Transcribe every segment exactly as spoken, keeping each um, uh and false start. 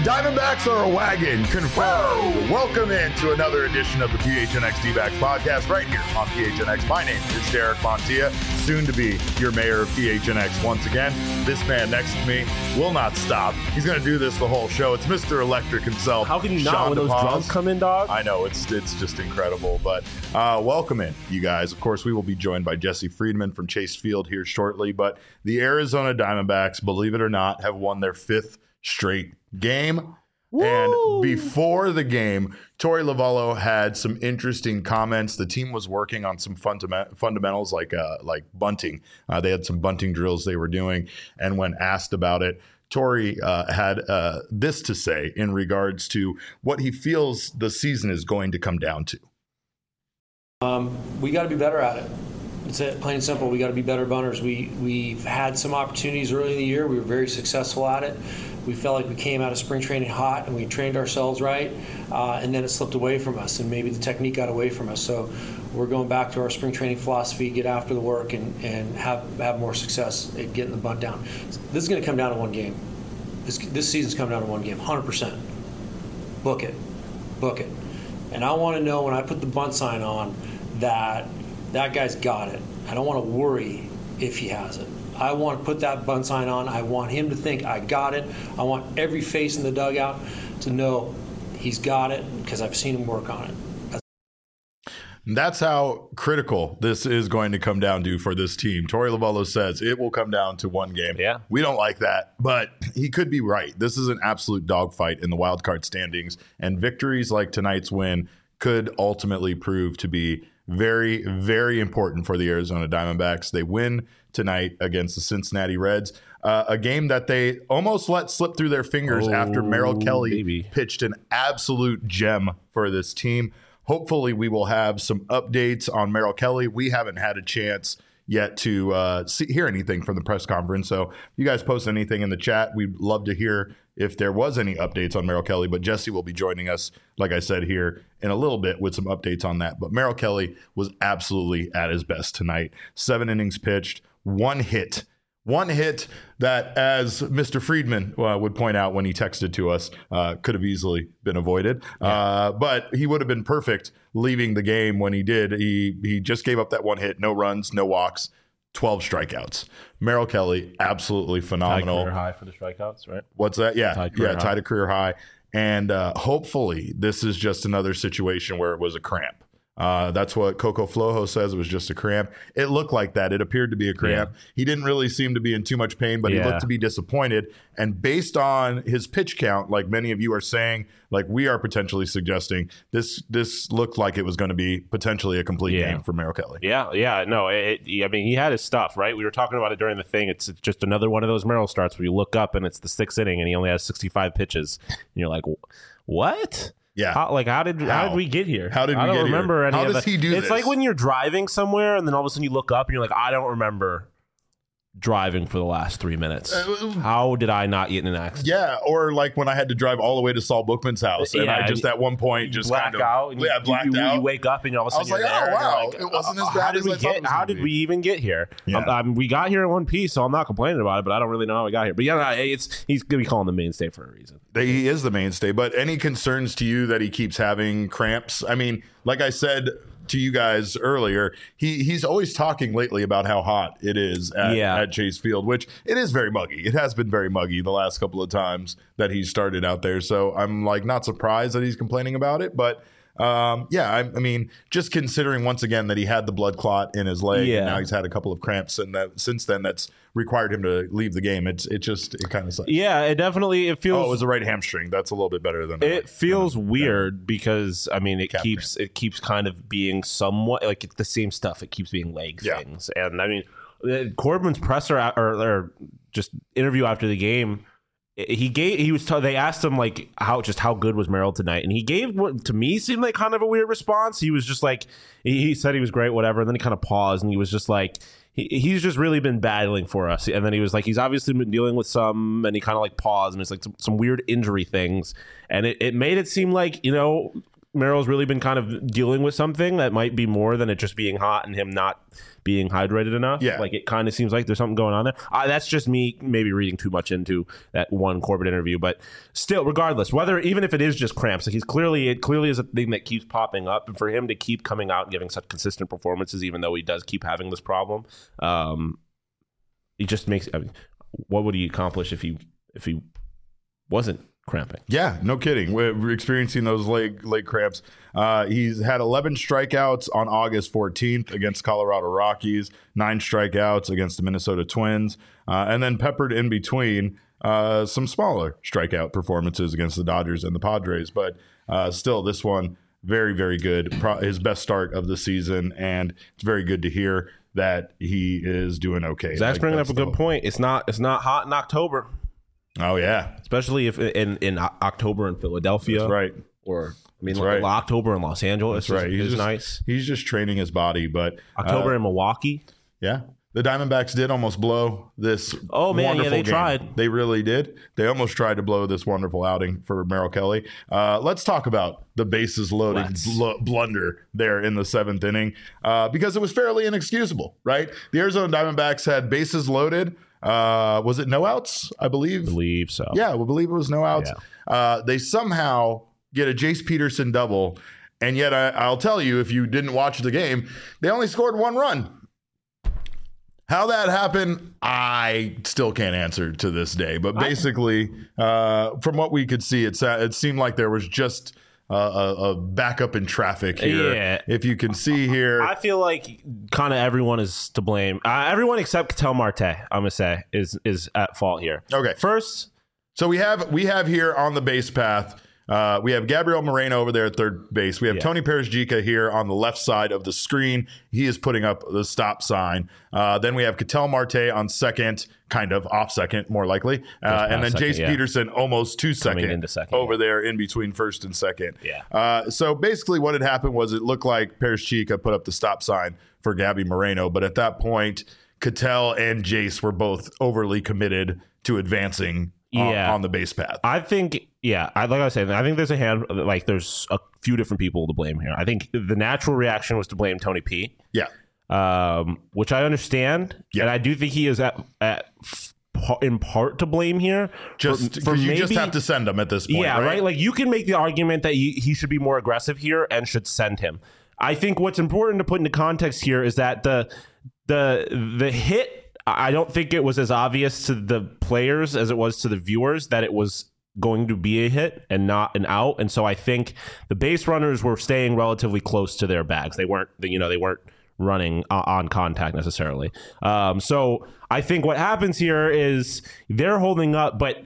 Diamondbacks are a wagon, confirmed. Welcome into another edition of the P H N X D-Backs podcast right here on P H N X. My name is Derek Montilla, soon to be your mayor of P H N X once again. This man next to me will not stop. He's going to do this the whole show. It's Mister Electric himself. How can you Sean not when those DePaz. drums come in, dog? I know, it's it's just incredible. But uh, welcome in, you guys. Of course, we will be joined by Jesse Friedman from Chase Field here shortly. But the Arizona Diamondbacks, believe it or not, have won their fifth straight game. Woo! And before the game, Torey Lovullo had some interesting comments. The team was working on some fundament- fundamentals like uh, like bunting. Uh, they had some bunting drills they were doing. And when asked about it, Torey uh, had uh, this to say in regards to what he feels the season is going to come down to. Um, we got to be better at it. It's it, plain and simple. We got to be better bunters. We we've had some opportunities early in the year. We were very successful at it. We felt like we came out of spring training hot, and we trained ourselves right, uh, and then it slipped away from us, and maybe the technique got away from us. So we're going back to our spring training philosophy: get after the work and, and have have more success at getting the bunt down. This is going to come down to one game. This this season's coming down to one game, one hundred percent. Book it, book it. And I want to know when I put the bunt sign on that that guy's got it. I don't want to worry if he has it. I want to put that bunt sign on. I want him to think I got it. I want every face in the dugout to know he's got it because I've seen him work on it. That's, That's how critical this is going to come down to for this team. Torey Lovullo says it will come down to one game. Yeah. We don't like that, but he could be right. This is an absolute dogfight in the wild card standings, and victories like tonight's win could ultimately prove to be very, very important for the Arizona Diamondbacks. They win tonight against the Cincinnati Reds, uh, a game that they almost let slip through their fingers Oh, after Merrill Kelly baby. pitched an absolute gem for this team. Hopefully we will have some updates on Merrill Kelly. We haven't had a chance yet to uh, see, hear anything from the press conference. So if you guys post anything in the chat, we'd love to hear if there was any updates on Merrill Kelly. But Jesse will be joining us, like I said, here in a little bit with some updates on that. But Merrill Kelly was absolutely at his best tonight. Seven innings pitched, one hit. One hit that, as Mister Friedman uh, would point out when he texted to us, uh, could have easily been avoided. Yeah. Uh, but he would have been perfect leaving the game when he did. He he just gave up that one hit, no runs, no walks, twelve strikeouts. Merrill Kelly, absolutely phenomenal. Tied career high for the strikeouts, right? What's that? Yeah, Tied yeah, high. tied a career high. And uh, hopefully this is just another situation where it was a cramp. Uh, that's what Coco Flojo says. It was just a cramp. It looked like that. It appeared to be a cramp. Yeah. He didn't really seem to be in too much pain, but yeah. he looked to be disappointed. And based on his pitch count, like many of you are saying, like we are potentially suggesting, this this looked like it was going to be potentially a complete yeah. game for Merrill Kelly. Yeah, yeah. No, it, I mean, he had his stuff, right? We were talking about it during the thing. It's just another one of those Merrill starts where you look up and it's the sixth inning and he only has sixty-five pitches. And you're like, what? Yeah. How, like, how did how? how did we get here? How did we I don't get remember here? any How of does the, he do It's this? like when you're driving somewhere and then all of a sudden you look up and you're like, I don't remember driving for the last three minutes. Uh, How did I not get in an accident? Yeah, or like when I had to drive all the way to Saul Bookman's house, and yeah, I just at one point just black kind of out. And yeah, you, blacked you, out. You wake up and all of a sudden I was you're like, there. oh wow, Like, it wasn't as uh, bad how did as we I thought get? it was How gonna did be. we even get here? Yeah. Um, um, we got here in one piece, so I'm not complaining about it. But I don't really know how we got here. But yeah, it's he's gonna be calling the mainstay for a reason. He is the mainstay. But any concerns to you that he keeps having cramps? I mean, like I said to you guys earlier, he he's always talking lately about how hot it is at, yeah. at Chase Field, which it is very muggy. It has been very muggy the last couple of times that he's started out there. So I'm like not surprised that he's complaining about it, but um, yeah, I, I mean, just considering once again that he had the blood clot in his leg, yeah. and now he's had a couple of cramps, and that since then that's required him to leave the game. It's it just it kind of sucks. Yeah, it definitely it feels. Oh, it was a right hamstring. That's a little bit better than it uh, feels than, weird uh, because I mean it Calf keeps cramp. it keeps kind of being somewhat like it's the same stuff. It keeps being leg Yeah. things, and I mean uh, Corbin's presser or, or just interview after the game. He gave. He was. T- they asked him like how just how good was Merrill tonight, and he gave what to me seemed like kind of a weird response. He was just like he, he said he was great, whatever. And then he kind of paused, and he was just like he, he's just really been battling for us. And then he was like he's obviously been dealing with some, and he kind of like paused, and it's like some, some weird injury things, and it, it made it seem like you know Merrill's really been kind of dealing with something that might be more than it just being hot and him not being hydrated enough. Yeah. Like it kind of seems like there's something going on there. Uh, that's just me maybe reading too much into that one Corbett interview. But still, regardless, whether even if it is just cramps, like he's clearly, it clearly is a thing that keeps popping up. And for him to keep coming out and giving such consistent performances, even though he does keep having this problem, um, he just makes, I mean, what would he accomplish if he, if he wasn't cramping? Yeah, no kidding. We're we're experiencing those leg leg cramps. Uh, he's had eleven strikeouts on August fourteenth against Colorado Rockies, nine strikeouts against the Minnesota Twins, uh, and then peppered in between uh, some smaller strikeout performances against the Dodgers and the Padres. But uh, still, this one, very, very good. Pro- his best start of the season, and it's very good to hear that he is doing okay. Zach's Like, bringing up that's a good the- point. It's not, it's not hot in October. Oh, yeah. Especially if in, in October in Philadelphia. That's right. Or, I mean, That's like right. October in Los Angeles That's right. is, He's is just, nice. He's just training his body, but October uh, in Milwaukee. yeah. The Diamondbacks did almost blow this. Oh, man, yeah, wonderful they game. tried. They really did. They almost tried to blow this wonderful outing for Merrill Kelly. Uh, let's talk about the bases loaded bl- blunder there in the seventh inning uh, because it was fairly inexcusable, right? The Arizona Diamondbacks had bases loaded. Uh, was it no outs? I believe. I believe so. Yeah, we believe it was no outs. Yeah. Uh, they somehow get a Jace Peterson double, and yet I, I'll tell you, if you didn't watch the game, they only scored one run. How that happened, I still can't answer to this day. But basically, uh, from what we could see, it, it seemed like there was just uh, a, a backup in traffic here. Yeah. If you can see here. I feel like kind of everyone is to blame. Uh, everyone except Ketel Marte, I'm going to say, is is at fault here. Okay. First. So we have we have here on the base path, uh, we have Gabriel Moreno over there at third base. We have Yeah. Tony Perez-Jica here on the left side of the screen. He is putting up the stop sign. Uh, then we have Ketel Marte on second, kind of off second, more likely. Uh, and then second, Jace yeah. Peterson almost two second, into second, over yeah. there in between first and second. Yeah. Uh, so basically what had happened was it looked like Perez-Jica put up the stop sign for Gabby Moreno. But at that point, Ketel and Jace were both overly committed to advancing on, Yeah. on the base path. I think, yeah, I, like I was saying, I think there's a hand, like there's a few different people to blame here. I think the natural reaction was to blame Tony P, Yeah. um, which I understand. Yeah. And I do think he is at, at in part to blame here. Just for, for because you maybe, just have to send him at this point. yeah, right? right? Like you can make the argument that he, he should be more aggressive here and should send him. I think what's important to put into context here is that the the the hit, I don't think it was as obvious to the players as it was to the viewers that it was going to be a hit and not an out. And so I think the base runners were staying relatively close to their bags. They weren't, you know, they weren't running on contact necessarily. Um, so I think what happens here is they're holding up, but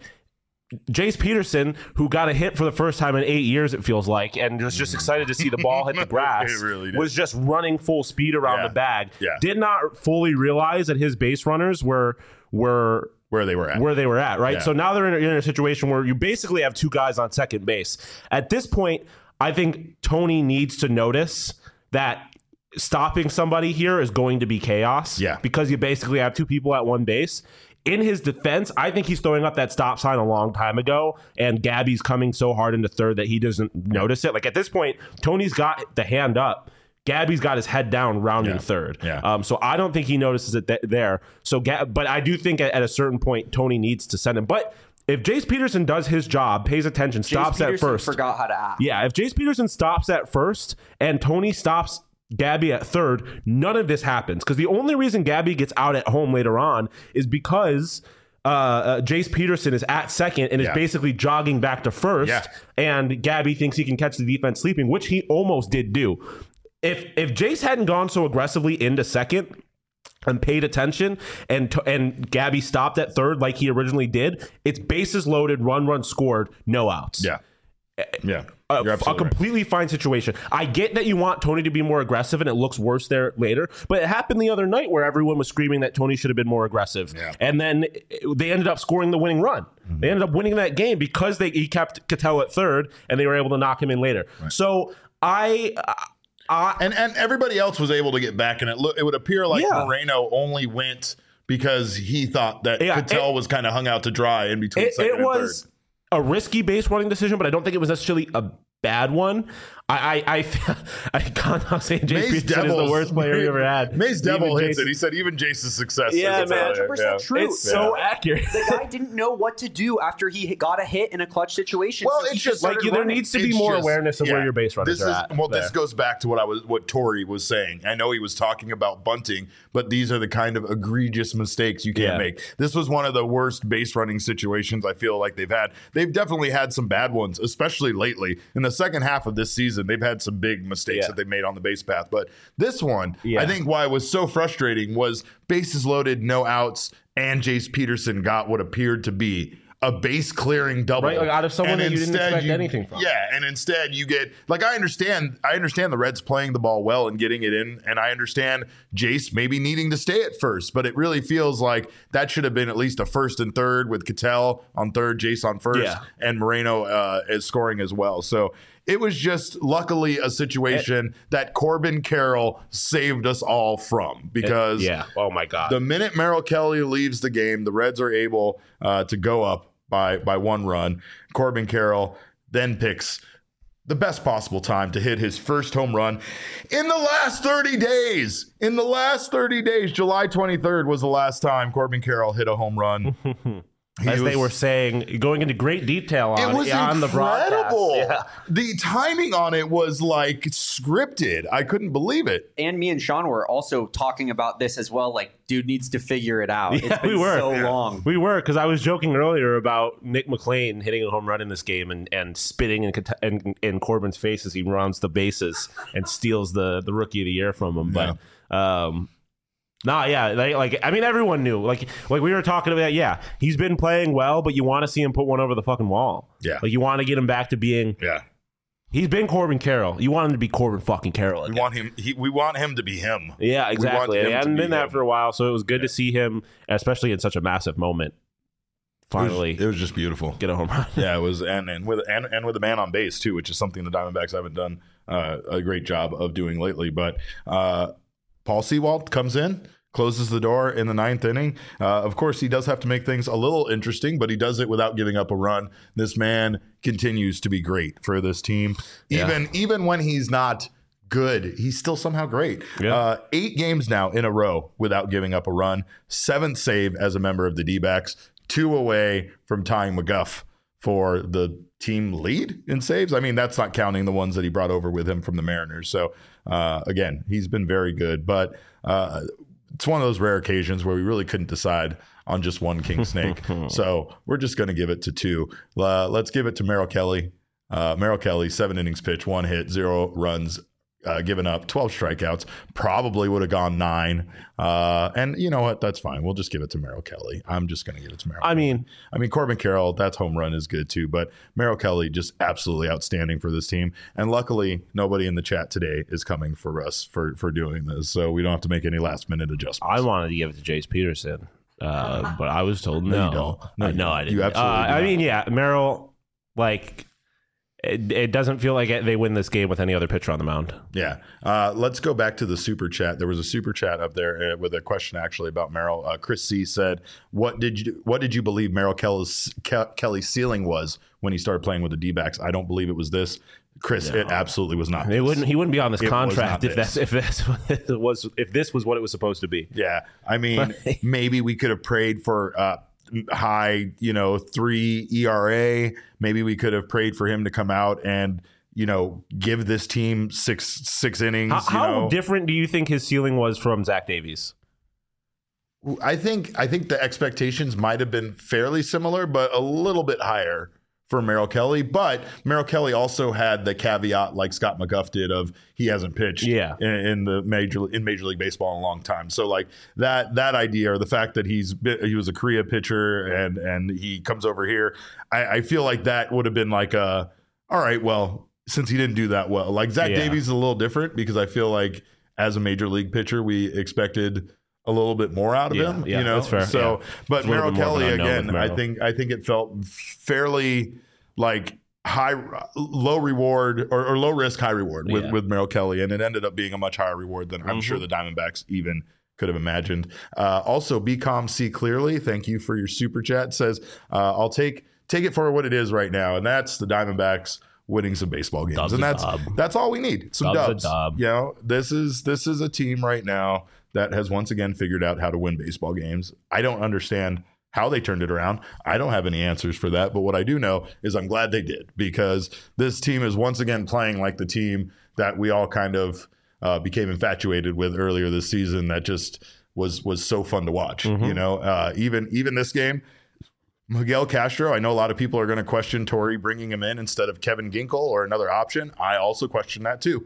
Jace Peterson, who got a hit for the first time in eight years, it feels like, and was just excited to see the ball hit the grass, It really did. was just running full speed around Yeah. the bag. Yeah. Did not fully realize that his base runners were were Where they were at. where they were at, right? Yeah. So now they're in a, in a situation where you basically have two guys on second base. At this point, I think Tony needs to notice that stopping somebody here is going to be chaos. Yeah. Because you basically have two people at one base. In his defense, I think he's throwing up that stop sign a long time ago, and Gabby's coming so hard into third that he doesn't notice it. Like at this point, Tony's got the hand up. Gabby's got his head down, rounding Yeah. third. Yeah. Um, so I don't think he notices it th- there. So, Gab- but I do think at, at a certain point, Tony needs to send him. But if Jace Peterson does his job, pays attention, stops Jace at Peterson first. forgot how to act. Yeah, if Jace Peterson stops at first and Tony stops Gabby at third, none of this happens. Because the only reason Gabby gets out at home later on is because uh, uh, Jace Peterson is at second and is Yeah. basically jogging back to first. Yeah. And Gabby thinks he can catch the defense sleeping, which he almost did do. If if Jace hadn't gone so aggressively into second and paid attention and t- and Gabby stopped at third like he originally did, it's bases loaded, run, run scored, no outs. Yeah. Yeah. A, You're a absolutely right. completely fine situation. I get that you want Tony to be more aggressive and it looks worse there later, but it happened the other night where everyone was screaming that Tony should have been more aggressive. Yeah. And then they ended up scoring the winning run. Mm-hmm. They ended up winning that game because they he kept Ketel at third and they were able to knock him in later. Right. So I... I And and everybody else was able to get back, and it look it would appear like Yeah. Moreno only went because he thought that Yeah, Ketel it- was kind of hung out to dry in between It, second it and was third. a risky base running decision, but I don't think it was necessarily a bad one. I, I, I, I can't not say Jace Mace Peterson is the Devils- worst player we ever had. Mace Devil Even hits Jace- it. He said even Jace's success. Yeah, is man. a one hundred percent yeah. true. It's so accurate. The guy didn't know what to do after he got a hit in a clutch situation. Well, so it's he just Like started there running. needs to be It's more just- awareness of yeah. where your base runners This are is at. well. there. This goes back to what I was, what Tori was saying. I know he was talking about bunting, but these are the kind of egregious mistakes you can't Yeah. make. This was one of the worst base running situations I feel like they've had. They've definitely had some bad ones, especially lately. In the second half of this season, they've had some big mistakes Yeah. that they made on the base path. But this one, Yeah. I think why it was so frustrating was bases loaded, no outs, and Jace Peterson got what appeared to be a base clearing double. Right, like out of someone And that you didn't instead expect you- anything from. Yeah, and instead you get like I understand I understand the Reds playing the ball well and getting it in, and I understand Jace maybe needing to stay at first, but it really feels like that should have been at least a first and third with Cattell on third, Jace on first, Yeah. and Moreno uh, is scoring as well. So it was just luckily a situation that Corbin Carroll saved us all from because yeah. Oh my God. the minute Merrill Kelly leaves the game, the Reds are able uh, to go up by by one run. Corbin Carroll then picks the best possible time to hit his first home run in the last thirty days. In the last thirty days, July twenty-third was the last time Corbin Carroll hit a home run. He As they was- were saying, going into great detail on it was on the broadcast. incredible. Yeah. The timing on it was like scripted. I couldn't believe it. And me and Sean were also talking about this as well. Like, dude needs to figure it out. Yeah, it's been we were. so Yeah. long. We were, because I was joking earlier about Nick McLean hitting a home run in this game and, and spitting in, in, in Corbin's face as he rounds the bases and steals the, the rookie of the year from him. But, um, nah, yeah, like, like I mean, everyone knew. Like, like we were talking about, yeah, he's been playing well, but you want to see him put one over the fucking wall. Yeah. Like, you want to get him back to being. Yeah. He's been Corbin Carroll. You want him to be Corbin fucking Carroll. We again. want him he, we want him to be him. Yeah, want exactly. him He to hadn't be been that him. for a while, so it was good to see him, especially in such a massive moment. Finally, It was, it was just beautiful. get a home run. Yeah, it was, and and with and, and with a man on base too, which is something the Diamondbacks haven't done uh, a great job of doing lately. But uh, Paul Sewald comes in, closes the door in the ninth inning. Uh, of course, he does have to make things a little interesting, but he does it without giving up a run. This man continues to be great for this team, Yeah. even even when he's not good, he's still somehow great. Yeah. Uh, eight games now in a row without giving up a run. Seventh save as a member of the D-backs. Two away from tying McGuff for the team lead in saves. I mean, that's not counting the ones that he brought over with him from the Mariners. So, uh, again, he's been very good. But uh, it's one of those rare occasions where we really couldn't decide on just one king snake. So we're just going to give it to two. Uh, let's give it to Merrill Kelly. Uh, Merrill Kelly, seven innings pitched, one hit, zero runs uh, given up, twelve strikeouts. Probably would have gone nine. Uh, and you know what? That's fine. We'll just give it to Merrill Kelly. I'm just going to give it to Merrill. I mean, I mean, Corbin Carroll, that's home run is good too, but Merrill Kelly just absolutely outstanding for this team. And luckily, nobody in the chat today is coming for us for, for doing this, so we don't have to make any last minute adjustments. I wanted to give it to Jace Peterson, uh, but I was told no. No, you don't. No, Uh, you no, don't. I didn't. You absolutely Uh, do I not. mean, yeah, Merrill, like, it, it doesn't feel like it, they win this game with any other pitcher on the mound. Yeah. Uh, let's go back to the super chat. There was a super chat up there uh, with a question actually about Merrill. Uh, Chris C said, "What did you What did you believe Merrill Kelly's, Ke- Kelly's ceiling was when he started playing with the D-backs? I don't believe it was this." Chris, it absolutely was not. It this. wouldn't. He wouldn't be on this It was contract not if this. that's if that's what it was if this was what it was supposed to be. Yeah, I mean, maybe we could have prayed for uh, high, you know, three E R A. Maybe we could have prayed for him to come out and, you know, give this team six six innings. How, you how know. different do you think his ceiling was from Zach Davies? I think I think the expectations might have been fairly similar, but a little bit higher for Merrill Kelly. But Merrill Kelly also had the caveat, like Scott McGuff did, of he hasn't pitched Yeah. in, in the major in Major League Baseball in a long time. So like that that idea, or the fact that he's been- he was a Korea pitcher and and he comes over here, I, I feel like that would have been like a all right, well, since he didn't do that well, like Zach Yeah. Davies is a little different because I feel like as a major league pitcher, we expected a little bit more out of Yeah, him, yeah, you know. that's fair, So, yeah. but It's a little Merrill bit more of an Kelly unknown again, with I Merrill. think I think it felt fairly like high, low reward or, or low risk, high reward with Yeah. with Merrill Kelly, and it ended up being a much higher reward than I'm Mm-hmm. sure the Diamondbacks even could have imagined. Uh, also, Be Calm, See Clearly, thank you for your super chat. Says uh, I'll take take it for what it is right now, and that's the Diamondbacks winning some baseball games. Dub's and a that's dub. that's all we need. Some Dub's a dubs. dub. You know, this is this is a team right now that has once again figured out how to win baseball games. I don't understand how they turned it around. I don't have any answers for that, but what I do know is I'm glad they did, because this team is once again playing like the team that we all kind of uh, became infatuated with earlier this season. That just was was so fun to watch. Mm-hmm. You know, uh, even even this game, Miguel Castro, I know a lot of people are going to question Torey bringing him in instead of Kevin Ginkel or another option. I also question that too.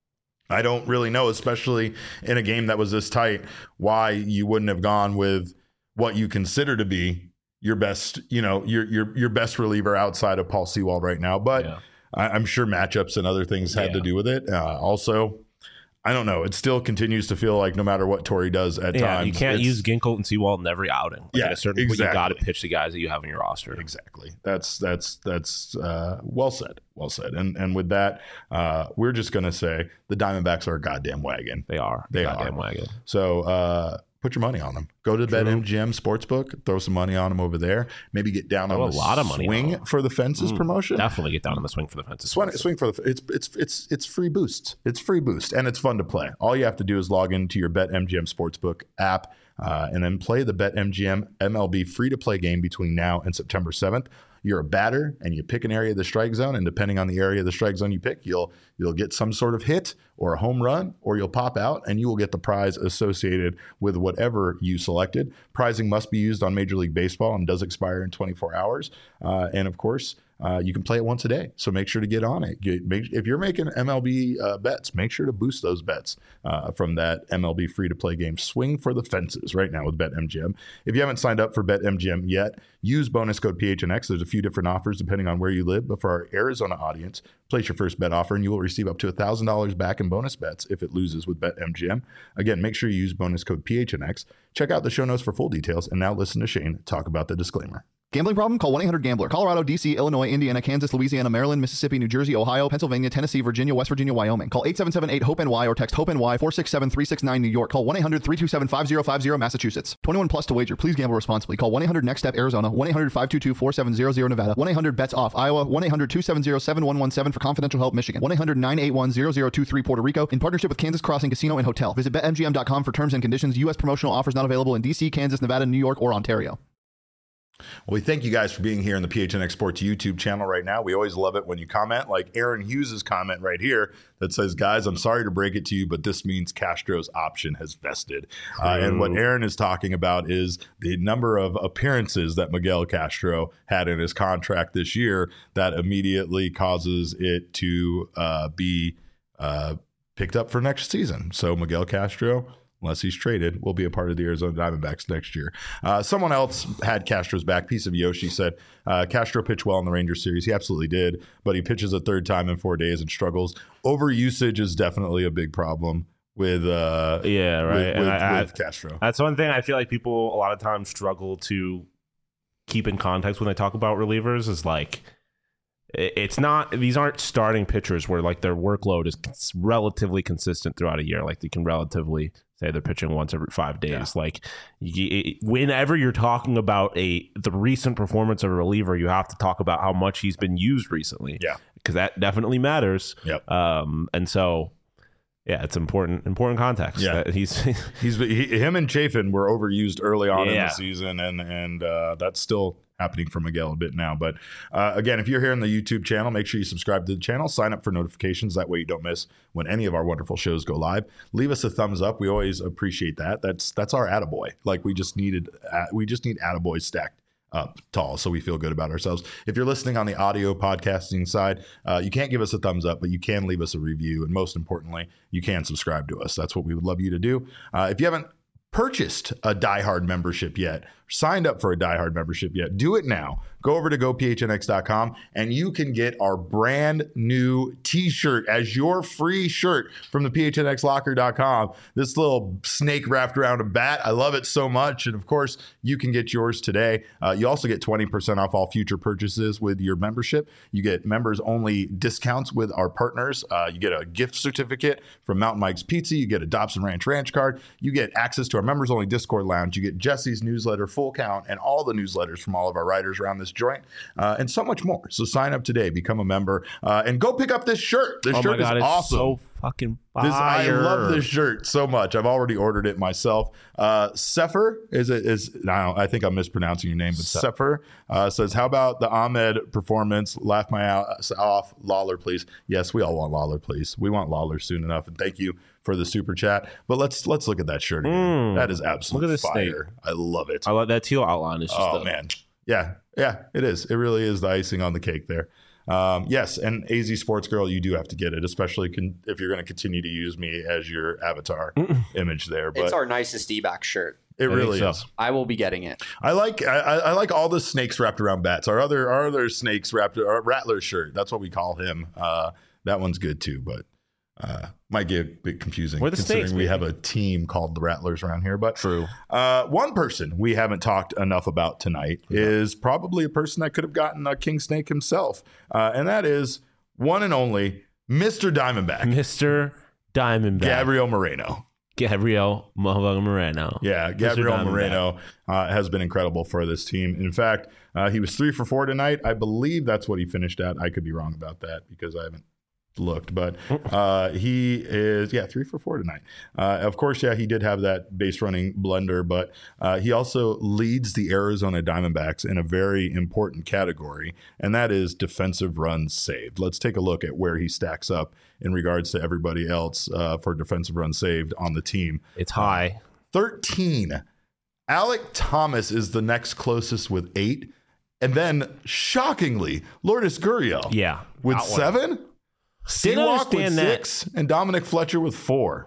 I don't really know, especially in a game that was this tight, why you wouldn't have gone with what you consider to be your best, you know, your your your best reliever outside of Paul Sewald right now. But Yeah. I, I'm sure matchups and other things had Yeah. to do with it. Uh, also, I don't know. It still continues to feel like no matter what Torey does at Yeah, times, you can't it's- use Ginkel and Sewald in every outing. Like Yeah, at a certain point, you got to exactly. pitch the guys that you have in your roster. Exactly. That's that's that's uh, well said. Well said. And and with that, uh, we're just gonna say the Diamondbacks are a goddamn wagon. They are. They Goddamn are. wagon. So uh, put your money on them. Go to BetMGM Sportsbook. Throw some money on them over there. Maybe get down Throw on a the lot of money on swing them. for the fences Mm, promotion. Definitely get down on the swing for the fences. Swing, swing for the it's it's it's it's free boosts. It's free boost and it's fun to play. All you have to do is log into your BetMGM Sportsbook app uh, and then play the BetMGM M L B free to play game between now and September seventh. You're a batter and you pick an area of the strike zone, and depending on the area of the strike zone you pick, you'll you'll get some sort of hit or a home run, or you'll pop out and you will get the prize associated with whatever you selected. Prizing must be used on Major League Baseball and does expire in twenty-four hours. Uh, and of course, uh, you can play it once a day. So make sure to get on it. Get, make, if you're making M L B uh, bets, make sure to boost those bets uh, from that M L B free-to-play game. Swing for the fences right now with BetMGM. If you haven't signed up for BetMGM yet, use bonus code P H N X. There's a few different offers depending on where you live. But for our Arizona audience, place your first bet offer and you will receive up to one thousand dollars back in bonus bets if it loses with BetMGM. Again, make sure you use bonus code P H N X. Check out the show notes for full details. And now listen to Shane talk about the disclaimer. Gambling problem? Call one eight hundred gambler. Colorado, D C, Illinois, Indiana, Kansas, Louisiana, Maryland, Mississippi, New Jersey, Ohio, Pennsylvania, Tennessee, Virginia, West Virginia, Wyoming. Call eight seven seven eight hope N Y or text HOPE-NY four six seven three six nine New York. Call one eight hundred three two seven five zero five zero Massachusetts. twenty-one plus to wager. Please gamble responsibly. Call one eight hundred next step Arizona. one eight hundred five two two four seven zero zero Nevada. one eight hundred bets off Iowa. one eight hundred two seven zero seven one one seven for confidential help Michigan. one eight hundred nine eight one zero zero two three Puerto Rico. In partnership with Kansas Crossing Casino and Hotel. Visit bet M G M dot com for terms and conditions. U S promotional offers not available in D C, Kansas, Nevada, New York, or Ontario. Well, we thank you guys for being here in the P H N X Sports YouTube channel right now. We always love it when you comment, like Aaron Hughes' comment right here that says, guys, I'm sorry to break it to you, but this means Castro's option has vested. Uh, and what Aaron is talking about is the number of appearances that Miguel Castro had in his contract this year that immediately causes it to uh, be uh, picked up for next season. So Miguel Castro, unless he's traded, will be a part of the Arizona Diamondbacks next year. Uh, someone else had Castro's back. Piece of Yoshi said, uh, Castro pitched well in the Rangers series. He absolutely did, but he pitches a third time in four days and struggles. Overusage is definitely a big problem with uh, Yeah, right. with, And with, I- with Castro. That's one thing I feel like people a lot of times struggle to keep in context when they talk about relievers is like it- it's not these aren't starting pitchers where like their workload is cons- relatively consistent throughout a year. Like they can relatively say they're pitching once every five days. Like y- it, whenever you're talking about a the recent performance of a reliever, you have to talk about how much he's been used recently. Yeah. because that definitely matters. Yep. Um, and so. Yeah, it's important important context. Yeah. that he's He's he, him and Chafin were overused early on in Yeah. the season, and and uh, that's still happening for Miguel a bit now. But uh, again, if you're here on the YouTube channel, make sure you subscribe to the channel, sign up for notifications. That way, you don't miss when any of our wonderful shows go live. Leave us a thumbs up. We always appreciate that. That's that's our attaboy. Like we just needed, uh, we just need attaboys stacked up tall, so we feel good about ourselves. If you're listening on the audio podcasting side, uh, you can't give us a thumbs up, but you can leave us a review, and most importantly, you can subscribe to us. That's what we would love you to do. Uh, if you haven't purchased a Die Hard membership yet, signed up for a Die Hard membership yet, do it now. Go over to go P H N X dot com and you can get our brand new t-shirt as your free shirt from the P H N X locker dot com. This little snake wrapped around a bat. I love it so much. And of course, you can get yours today. Uh, you also get twenty percent off all future purchases with your membership. You get members only discounts with our partners. Uh, you get a gift certificate from Mountain Mike's Pizza. You get a Dobson Ranch Ranch card. You get access to our members only Discord lounge. You get Jesse's newsletter Full Count, and all the newsletters from all of our writers around this joint, uh, and so much more. So sign up today, become a member, uh, and go pick up this shirt. This oh shirt my God, is it's awesome. so fucking fire. This, I love this shirt so much. I've already ordered it myself. Uh, Sefer is it is now I think I'm mispronouncing your name, but Se- Sefer uh, says, "How about the Ahmed performance? Laugh my ass off, Lawler, please." Yes, we all want Lawler, please. We want Lawler soon enough, and thank you for the super chat. But let's let's look at that shirt again. Mm. That is absolute Look at this fire. I love it. I love that teal outline. It's just Oh the, man, yeah, yeah, it is. It really is the icing on the cake there. Um, yes, and A Z Sports Girl, you do have to get it, especially con- if you're going to continue to use me as your avatar image there. But It's our nicest D-back shirt. it I really think so. is. I will be getting it. I like I, I like all the snakes wrapped around bats. Our other our other snakes wrapped our Rattler shirt. That's what we call him. Uh, that one's good too, but uh, might get a bit confusing We're the considering snakes, we baby. have a team called the Rattlers around here. But True. Uh, one person we haven't talked enough about tonight is probably a person that could have gotten a king snake himself, uh, and that is one and only Mister Diamondback, Mister Diamondback. Gabriel Moreno. Gabriel motherfucking Moreno. Yeah, Mister Gabriel Diamondback. Moreno uh, has been incredible for this team. In fact, uh, he was three for four tonight. I believe that's what he finished at. I could be wrong about that because I haven't looked, but uh, he is, yeah, three for four tonight. Uh, of course, yeah, he did have that base running blunder, but uh, he also leads the Arizona Diamondbacks in a very important category, and that is defensive runs saved. Let's take a look at where he stacks up in regards to everybody else uh, for defensive runs saved on the team. It's high. thirteen. Alec Thomas is the next closest with eight. And then, shockingly, Lourdes Gurriel Yeah. with That one. seven. Didn't Seawalk with understand that. six. And Dominic Fletcher with four.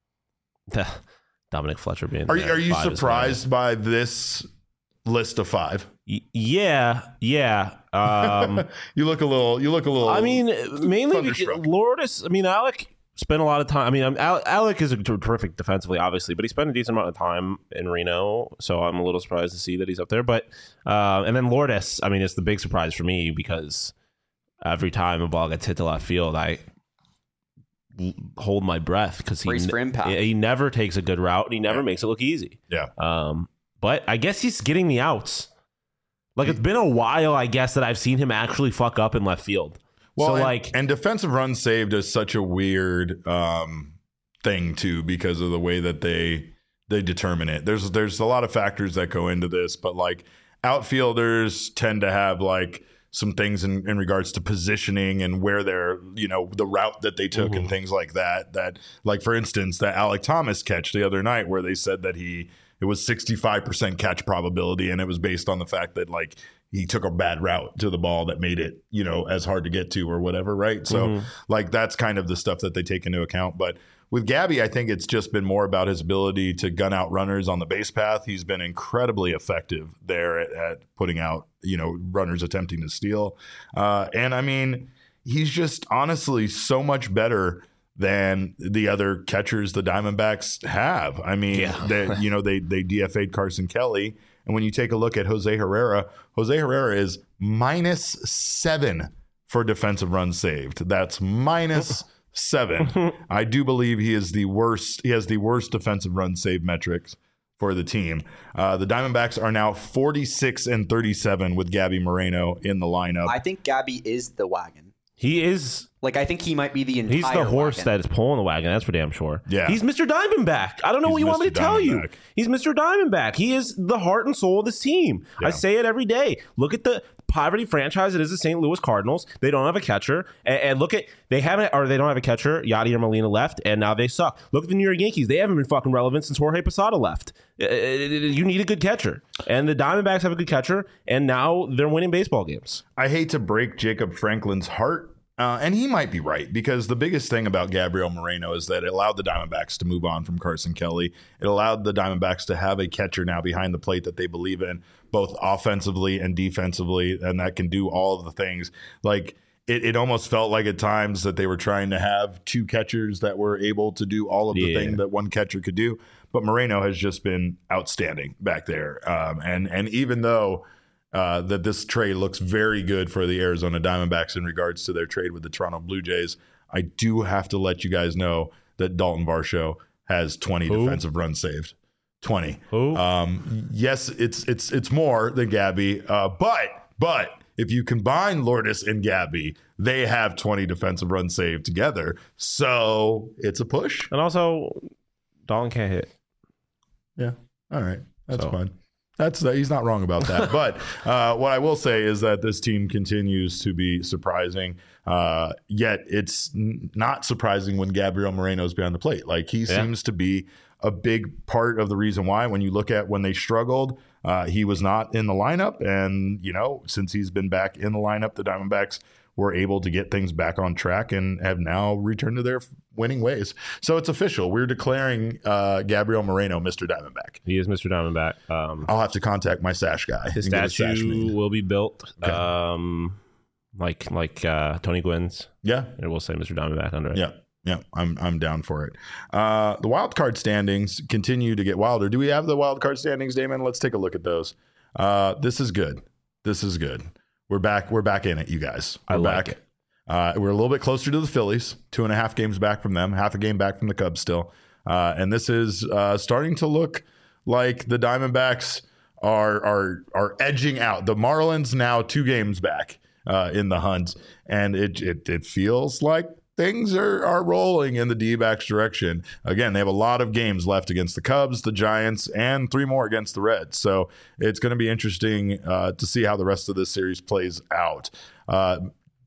Dominic Fletcher being Are, you- there. are you Five is surprised by this list of five? Y- Yeah, yeah. Um, You look a little, you look a little. I mean, mainly because Thunderstruck. Lourdes. I mean, Alec spent a lot of time. I mean, um, Al- Alec is a ter- terrific defensively, obviously, but he spent a decent amount of time in Reno, so I'm a little surprised to see that he's up there. But uh, and then Lourdes, I mean, it's the big surprise for me because every time a ball gets hit to left field, I l- hold my breath because he Brace for impact. he never takes a good route and he never Yeah. makes it look easy. yeah. Um, but I guess he's getting the outs. Like it's been a while, I guess, that I've seen him actually fuck up in left field. Well, so and, like, and defensive runs saved is such a weird um, thing too because of the way that they they determine it. There's there's a lot of factors that go into this, but like outfielders tend to have like some things in, in regards to positioning and where they're, you know, the route that they took and things like that. That like for instance, that Alec Thomas catch the other night where they said that he it was sixty-five percent catch probability, and it was based on the fact that like he took a bad route to the ball that made it, you know, as hard to get to or whatever, right? So Mhm. like that's kind of the stuff that they take into account. But with Gabby, I think it's just been more about his ability to gun out runners on the base path. He's been incredibly effective there at, at putting out, you know, runners attempting to steal. Uh, and I mean, he's just honestly so much better than the other catchers the Diamondbacks have. I mean, Yeah. they, you know, they they D F A'd Carson Kelly. And when you take a look at Jose Herrera, Jose Herrera is minus seven for defensive runs saved. That's minus seven. I do believe he is the worst. He has the worst defensive run save metrics for the team. Uh, the Diamondbacks are now forty-six and thirty-seven with Gabby Moreno in the lineup. I think Gabby is the wagon. he is. Like, I think he might be the entire He's the horse wagon. that is pulling the wagon. That's for damn sure. Yeah. He's Mister Diamondback. I don't know He's what you want me to Mister tell you. Diamondback. He's Mister Diamondback. He is the heart and soul of this team. Yeah. I say it every day. Look at the poverty franchise that is the Saint Louis Cardinals. They don't have a catcher, and, and look at they haven't or they don't have a catcher. Yadier Molina left, and now they suck. Look at the New York Yankees. They haven't been fucking relevant since Jorge Posada left. Uh, You need a good catcher, and the Diamondbacks have a good catcher, and now they're winning baseball games. I hate to break Jacob Franklin's heart. Uh, and he might be right because the biggest thing about Gabriel Moreno is that it allowed the Diamondbacks to move on from Carson Kelly. It allowed the Diamondbacks to have a catcher now behind the plate that they believe in, both offensively and defensively, and that can do all of the things. Like it, it almost felt like at times that they were trying to have two catchers that were able to do all of the Yeah. things that one catcher could do. But Moreno has just been outstanding back there. Um, and and even though Uh, that this trade looks very good for the Arizona Diamondbacks in regards to their trade with the Toronto Blue Jays, I do have to let you guys know that Dalton Varsho has twenty Who? defensive runs saved. twenty. Who? Um, yes, it's it's it's more than Gabby, uh, but but if you combine Lourdes and Gabby, they have twenty defensive runs saved together. So it's a push. And also, Dalton can't hit. Yeah. All right. That's So. fine. That's uh, he's not wrong about that. But uh, what I will say is that this team continues to be surprising. Uh, yet it's n- not surprising when Gabriel Moreno is behind the plate. Like he Yeah. seems to be a big part of the reason why. When you look at when they struggled, uh, he was not in the lineup, and you know since he's been back in the lineup, the Diamondbacks were able to get things back on track and have now returned to their winning ways. So it's official. We're declaring uh, Gabriel Moreno Mister Diamondback. He is Mister Diamondback. Um, I'll have to contact my sash guy. his and get a sash statue made. will be built, Okay. um, like like uh, Tony Gwynn's. Yeah, It will say Mister Diamondback under it. yeah, yeah. I'm I'm down for it. Uh, the wild card standings continue to get wilder. Do we have the wild card standings, Damon? Let's take a look at those. Uh, this is good. This is good. We're back. We're back in it, you guys. We're I like back. it. Uh, we're a little bit closer to the Phillies, two and a half games back from them, half a game back from the Cubs still. Uh, and this is uh, starting to look like the Diamondbacks are are are edging out. The Marlins now two games back uh, in the hunt, and it, it it feels like things are are rolling in the D-backs direction. Again, they have a lot of games left against the Cubs, the Giants, and three more against the Reds. So it's going to be interesting uh, to see how the rest of this series plays out. Uh,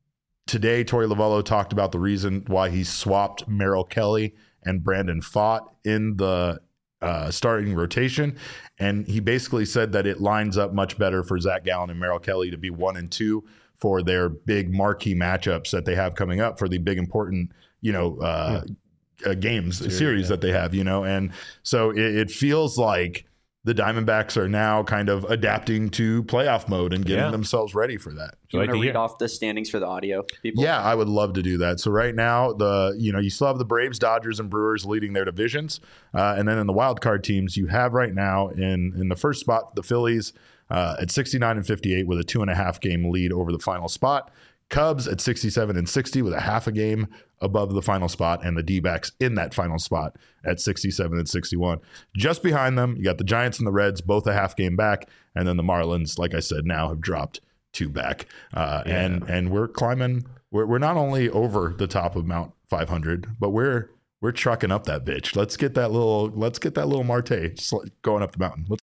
Today, Torey Lovello talked about the reason why he swapped Merrill Kelly and Brandon Pfaadt in the uh, starting rotation. And he basically said that it lines up much better for Zach Gallen and Merrill Kelly to be one and two for their big marquee matchups that they have coming up for the big important, you know, uh, uh, games, series, series yeah. that they have, you know. And so it, it feels like the Diamondbacks are now kind of adapting to playoff mode and getting yeah. themselves ready for that. Do you like want to read hear. off the standings for the audio people? Yeah, I would love to do that. So right now, the you know you still have the Braves, Dodgers, and Brewers leading their divisions, uh, and then in the wild card teams, you have right now in in the first spot the Phillies uh, at sixty-nine and fifty-eight with a two and a half game lead over the final spot. Cubs at sixty-seven and sixty with a half a game above the final spot, and the D-backs in that final spot at sixty-seven and sixty-one. Just behind them, you got the Giants and the Reds, both a half game back, and then the Marlins, like I said, now have dropped two back. Uh, Yeah. And and we're climbing. We're we're not only over the top of Mount five hundred, but we're we're trucking up that bitch. Let's get that little. Let's get that little Marte sl- going up the mountain. Let's.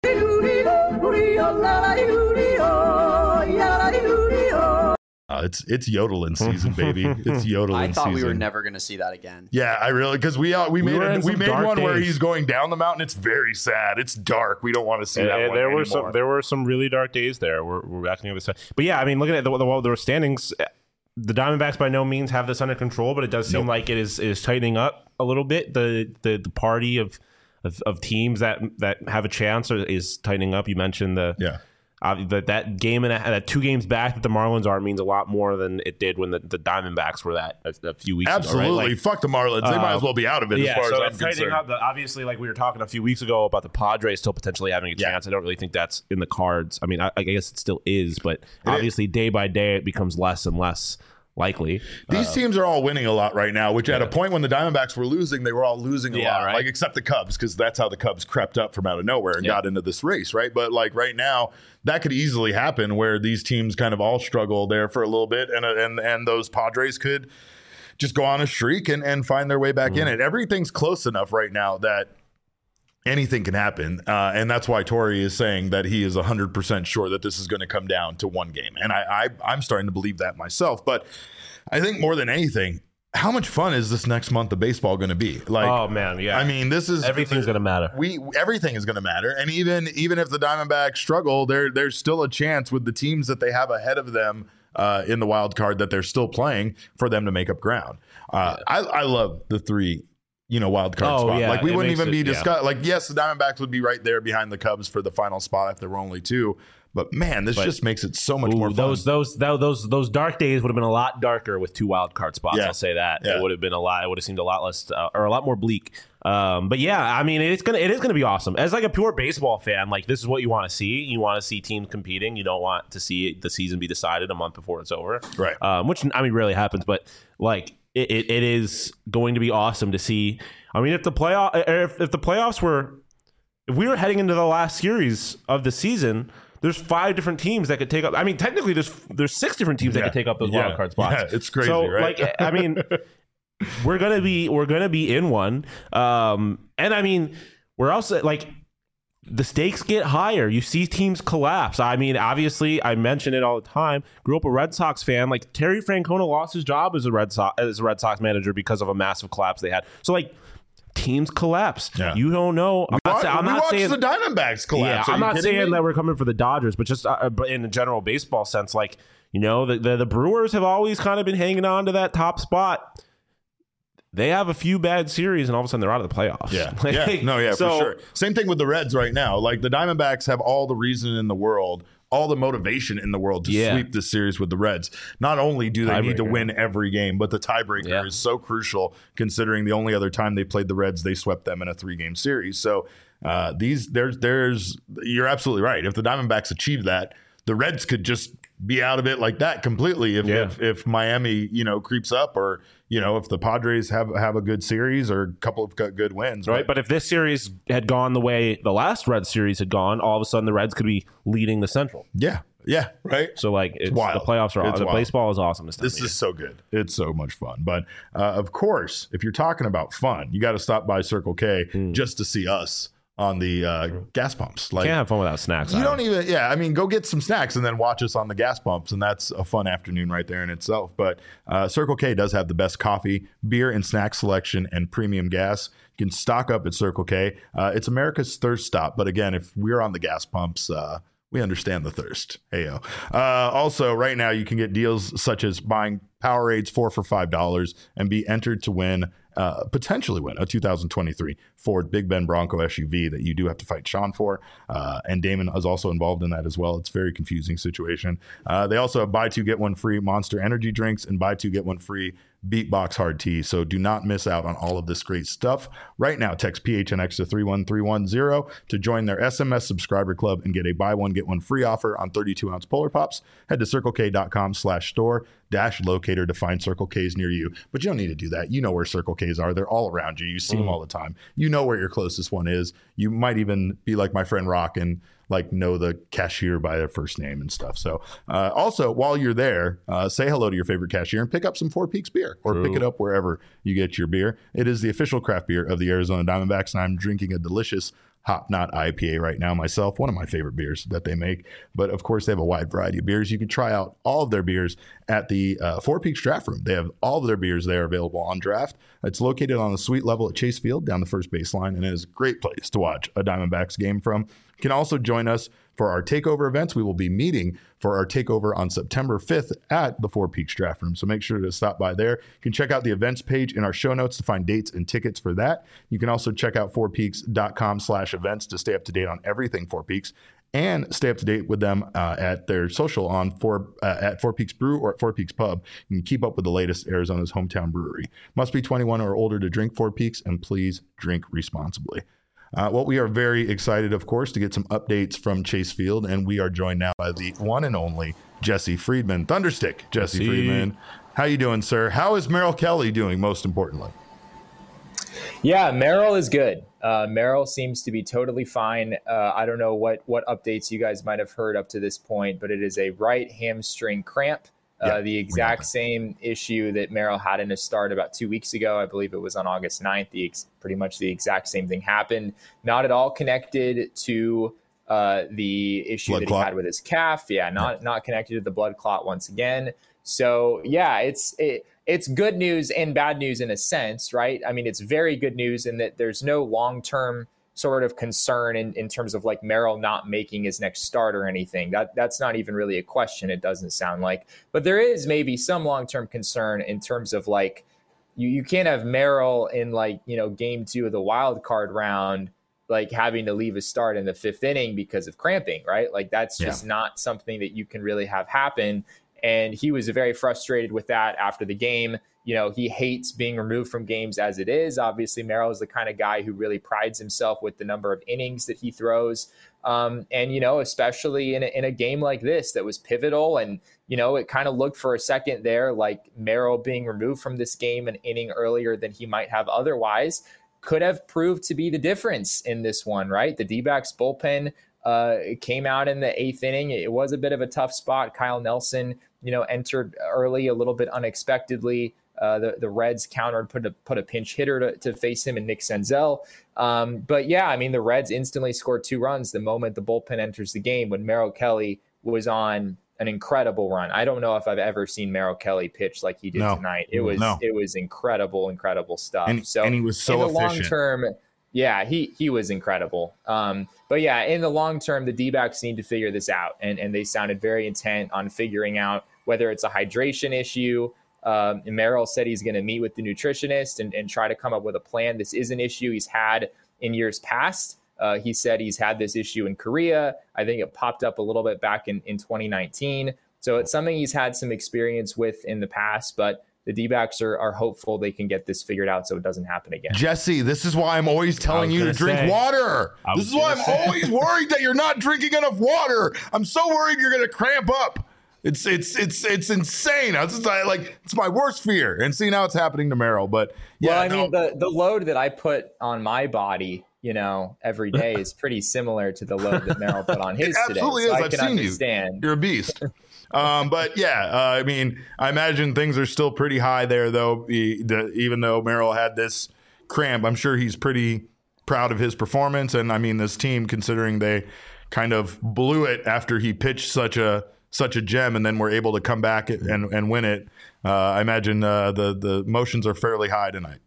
Uh, it's it's yodeling season, baby. It's yodeling I thought season. we were never going to see that again. Yeah, I really because we uh, we, We made were a, in we some made dark one where days. he's going down the mountain. It's very sad. It's dark. We don't want to see And, that and one there were anymore. some there were some really dark days there. We're we're back on the other side. But yeah, I mean, looking at the the, the standings, the Diamondbacks by no means have this under control, but it does seem Nope. like it is it is tightening up a little bit. The the, the party of, of of teams that that have a chance are, is tightening up. You mentioned the yeah. Uh, that that game and a, that two games back that the Marlins are means a lot more than it did when the, the Diamondbacks were that a, a few weeks Absolutely. ago. Right? Like, Fuck the Marlins. They uh, might as well be out of it yeah, as far so as it's I'm tightening concerned. up. The, obviously, like we were talking a few weeks ago about the Padres still potentially having a Yeah. chance. I don't really think that's in the cards. I mean, I, I guess it still is, but It obviously, day by day, it becomes less and less likely. These Uh, teams are all winning a lot right now, which at a point when the Diamondbacks were losing, they were all losing a Yeah, lot. right. Like except the Cubs, because that's how the Cubs crept up from out of nowhere and Yeah. got into this race, right? But like right now, that could easily happen where these teams kind of all struggle there for a little bit, and and and those Padres could just go on a streak and, and find their way back Mm-hmm. in it. Everything's close enough right now that anything can happen. Uh, and that's why Torey is saying that he is one hundred percent sure that this is going to come down to one game. And I, I, I'm starting to believe that myself. But I think more than anything, how much fun is this next month of baseball going to be? Like, oh man, yeah. I mean, this is everything's going to matter. we everything is going to matter, and even even if the Diamondbacks struggle, there there's still a chance with the teams that they have ahead of them uh, in the wild card that they're still playing for them to make up ground. Uh, I, I love the three, you know, wild card Oh, spot. yeah, Like we it wouldn't makes even it- be yeah. discussed. Like yes, the Diamondbacks would be right there behind the Cubs for the final spot if there were only two. But man, this But- just makes it so much Ooh, more fun. those those tho- those those dark days would have been a lot darker with two wild card spots. Yeah. I'll say that Yeah. it would have been a lot. It would have seemed a lot less uh, or a lot more bleak. Um, but yeah, I mean, it's gonna it is gonna be awesome. As like a pure baseball fan, like this is what you want to see. You want to see teams competing. You don't want to see the season be decided a month before it's over, Right. Um, which I mean rarely happens, but like it, it, it is going to be awesome to see. I mean, if the playoff if, if the playoffs were if we were heading into the last series of the season, there's five different teams that could take up. I mean, technically, there's there's six different teams Yeah. that could take up those Yeah. wild card spots. Yeah, it's crazy, so, right? Like, I mean, we're gonna be we're gonna be in one, um, and I mean, we're also like the stakes get higher. You see teams collapse. I mean, obviously, I mention it all the time. Grew up a Red Sox fan. Like Terry Francona lost his job as a Red Sox as a Red Sox manager because of a massive collapse they had. So like. Teams collapse. Yeah. You don't know. I'm We not, watch- say, I'm we not watched saying the Diamondbacks collapse. Yeah, Are I'm you not kidding saying me? that we're coming for the Dodgers, but just uh, but in a general baseball sense, like you know, the, the the Brewers have always kind of been hanging on to that top spot. They have a few bad series, and all of a sudden they're out of the playoffs. Yeah, Like, yeah, no, yeah, so, for sure. Same thing with the Reds right now. Like the Diamondbacks have all the reason in the world, all the motivation in the world to Yeah. sweep this series with the Reds. Not only do they need to Tiebreaker. win every game, but the tiebreaker Yeah. is so crucial considering the only other time they played the Reds, they swept them in a three-game series. So uh, these, there's, there's, you're absolutely right. If the Diamondbacks achieve that, the Reds could just be out of it like that completely. If, Yeah. if if Miami, you know, creeps up, or you know, if the Padres have have a good series or a couple of good good wins, Right, but if this series had gone the way the last Red series had gone, all of a sudden the Reds could be leading the Central. yeah, yeah, right. So like, it's, wild. the playoffs are It's the wild. baseball is awesome. This, time This of is so good. It's so much fun. But uh, of course, if you're talking about fun, you got to stop by Circle K just to see us on the uh, gas pumps. year. Like Can't have fun without snacks. you Adam. don't even, yeah. I mean, go get some snacks and then watch us on the gas pumps, and that's a fun afternoon right there in itself. But uh, Circle K does have the best coffee, beer, and snack selection, and premium gas. You can stock up at Circle K. Uh, it's America's thirst stop. But again, if we're on the gas pumps, uh, we understand the thirst. Heyo. Uh, also, right now you can get deals such as buying Powerades four for five dollars and be entered to win. Uh, potentially win a two thousand twenty-three Ford Big Ben Bronco S U V that you do have to fight Sean for. Uh, and Damon is also involved in that as well. It's a very confusing situation. Uh, they also have buy two, get one free Monster Energy drinks and buy two, get one free Beatbox Hard Tea. So do not miss out on all of this great stuff. Right now, text P H N X to three one three one zero to join their S M S subscriber club and get a buy one, get one free offer on thirty-two ounce Polar Pops. Head to circlek.com slash store dash locator to find Circle K's near you. But you don't need to do that. You know where Circle K's are. They're all around you. You see them all the time. You know where your closest one is. You might even be like my friend Rock and like know the cashier by their first name and stuff. So uh, also while you're there, uh, say hello to your favorite cashier and pick up some Four Peaks beer, or pick it up wherever you get your beer. It is the official craft beer of the Arizona Diamondbacks, and I'm drinking a delicious Hop Knot I P A right now myself, one of my favorite beers that they make. But of course, they have a wide variety of beers. You can try out all of their beers at the uh, Four Peaks Draft Room. They have all of their beers there available on draft. It's located on the suite level at Chase Field down the first baseline, and it is a great place to watch a Diamondbacks game from. You can also join us for our takeover events. We will be meeting for our takeover on September fifth at the Four Peaks Draft Room. So make sure to stop by there. You can check out the events page in our show notes to find dates and tickets for that. You can also check out fourpeaks.com slash events to stay up to date on everything Four Peaks, and stay up to date with them uh, at their social on four uh, at Four Peaks Brew or at Four Peaks Pub. You can keep up with the latest Arizona's hometown brewery. Must be twenty-one or older to drink Four Peaks, and please drink responsibly. Uh, well, we are very excited, of course, to get some updates from Chase Field, and we are joined now by the one and only Jesse Friedman. Thunderstick, Jesse Jesse. Friedman. How you doing, sir? How is Merrill Kelly doing, most importantly? Yeah, Merrill is good. Uh, Merrill seems to be totally fine. Uh, I don't know what what updates you guys might have heard up to this point, but it is a right hamstring cramp. Uh, Yeah, the exact same issue that Merrill had in his start about two weeks ago. I believe it was on August ninth. The ex- pretty much the exact same thing happened. Not at all connected to uh, the issue Blood that clot. he had with his calf. Yeah, not not connected to the blood clot once again. So yeah, it's it, it's good news and bad news in a sense, right? I mean, it's very good news in that there's no long term sort of concern in, in terms of like Merrill not making his next start or anything. That that's not even really a question. It doesn't sound like, but there is maybe some long-term concern in terms of like, you, you can't have Merrill in like, you know, game two of the wild card round, like having to leave a start in the fifth inning because of cramping, right? Like that's just Yeah. not something that you can really have happen. And he was very frustrated with that after the game. You know, he hates being removed from games as it is. Obviously, Merrill is the kind of guy who really prides himself with the number of innings that he throws. Um, and, you know, especially in a, in a game like this that was pivotal. And, you know, it kind of looked for a second there like Merrill being removed from this game an inning earlier than he might have otherwise could have proved to be the difference in this one, right? The D-backs bullpen uh, came out in the eighth inning. It was a bit of a tough spot. Kyle Nelson, you know, entered early a little bit unexpectedly. Uh, the, the Reds countered, put a, put a pinch hitter to, to face him in Nick Senzel. Um, but yeah, I mean, the Reds instantly scored two runs the moment the bullpen enters the game when Merrill Kelly was on an incredible run. I don't know if I've ever seen Merrill Kelly pitch like he did no. tonight. It was no. it was incredible, incredible stuff. And, so and he was so in the efficient. long term, yeah, he he was incredible. Um, but yeah, in the long term, the D-backs need to figure this out, and and they sounded very intent on figuring out whether it's a hydration issue. Um, and Merrill said he's going to meet with the nutritionist and, and try to come up with a plan. This is an issue he's had in years past. Uh, he said he's had this issue in Korea. I think it popped up a little bit back in, in twenty nineteen. So it's something he's had some experience with in the past, but the D-backs are, are hopeful they can get this figured out so it doesn't happen again. Jesse, this is why I'm always telling you to drink say, water. This is why I'm say. always worried that you're not drinking enough water. I'm so worried you're going to cramp up. It's it's it's it's insane. It's just, I, like it's my worst fear. And see, now it's happening to Merrill. But yeah, well, I no. mean, the the load that I put on my body, you know, every day is pretty similar to the load that Merrill put on his It absolutely today. So is. I I've can seen understand. you. You're a beast. um, but yeah, uh, I mean, I imagine things are still pretty high there, though. The, the, even though Merrill had this cramp, I'm sure he's pretty proud of his performance. And I mean, this team, considering they kind of blew it after he pitched such a such a gem, and then were able to come back and and win it. Uh, I imagine uh, the the emotions are fairly high tonight.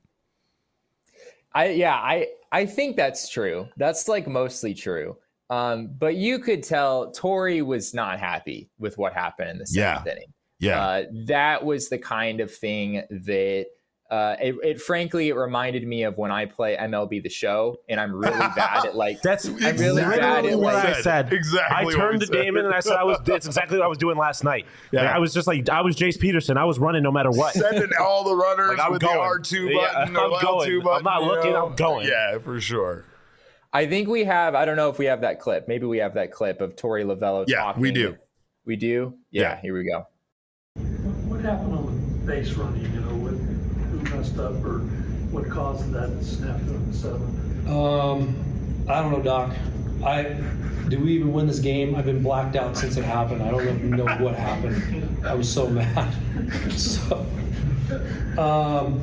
I yeah, I I think that's true. That's like mostly true. Um, but you could tell Torey was not happy with what happened in the seventh Yeah. inning. Yeah, Uh, that was the kind of thing that uh, it, it frankly it reminded me of when I play M L B The Show, and I'm really bad at like That's I'm really exactly bad at what like I said. Exactly I what turned we to said. Damon and I said I was. That's exactly what I was doing last night. Yeah. Like, I was just like I was Jace Peterson. I was running no matter what. sending all the runners Like, I'm with going. the R two Yeah, button I'm or L two going. button. I'm not you looking, know? I'm going. Yeah, for sure. I think we have. I don't know if we have that clip. Maybe we have that clip of Torey Lovello Yeah, talking. we do. We do. Yeah, Yeah. Here we go. What happened on the base running, you know, what, who messed up or what caused that snafu in the seventh? Um, I don't know, Doc. I did we even win this game? I've been blacked out since it happened. I don't even know what happened. I was so mad. so, um,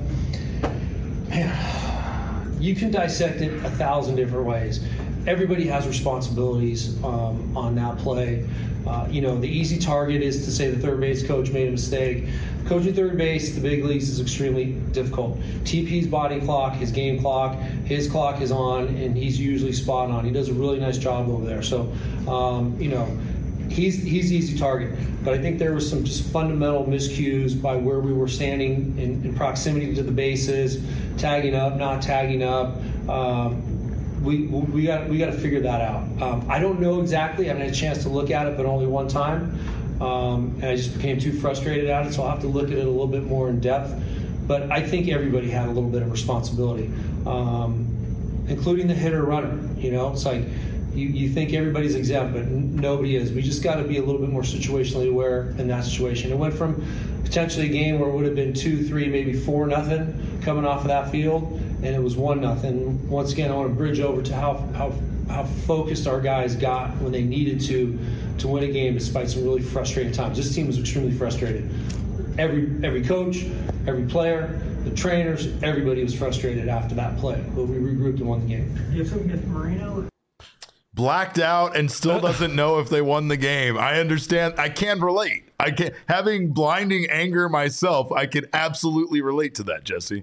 man, you can dissect it a thousand different ways. Everybody has responsibilities um, on that play. Uh, you know, the easy target is to say the third base coach made a mistake. Coaching third base, the big leagues, is extremely difficult. T P's body clock, his game clock, his clock is on, and he's usually spot on. He does a really nice job over there. So, um, you know, he's he's the easy target. But I think there was some just fundamental miscues by where we were standing in, in proximity to the bases, tagging up, not tagging up. Um, We we got we got to figure that out. Um, I don't know exactly. I haven't had a chance to look at it, but only one time, um, and I just became too frustrated at it. So I'll have to look at it a little bit more in depth. But I think everybody had a little bit of responsibility, um, including the hitter runner. You know, it's like you, you think everybody's exempt, but n- nobody is. We just got to be a little bit more situationally aware in that situation. It went from potentially a game where it would have been two, three, maybe four nothing coming off of that field, and it was one nothing. Once again, I want to bridge over to how how how focused our guys got when they needed to to win a game despite some really frustrating times. This team was extremely frustrated. Every every coach, every player, the trainers, everybody was frustrated after that play. But we regrouped and won the game. Do you have something against Marino? Blacked out and still doesn't know if they won the game. I understand. I can relate. I can having blinding anger myself. I can absolutely relate to that, Jesse.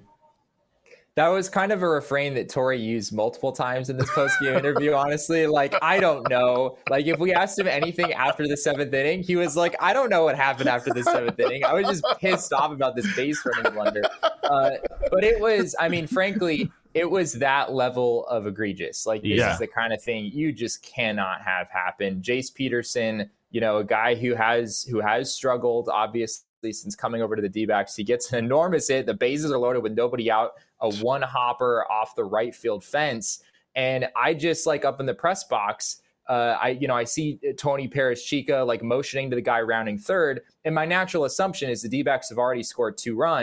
That was kind of a refrain that Torey used multiple times in this post-game interview, honestly. Like, I don't know. Like, if we asked him anything after the seventh inning, he was like, I don't know what happened after the seventh inning. I was just pissed off about this base running blunder. Uh, but it was, I mean, frankly, it was that level of egregious. Like, this Yeah. is the kind of thing you just cannot have happen. Jace Peterson, you know, a guy who has who has struggled, obviously, since coming over to the D-backs. He gets an enormous hit. The bases are loaded with nobody out. A one hopper off the right field fence. And I just like up in the press box, uh, I, you know, I see Tony Perez-Chica like motioning to the guy rounding third. And my natural assumption is the D-backs have already scored two runs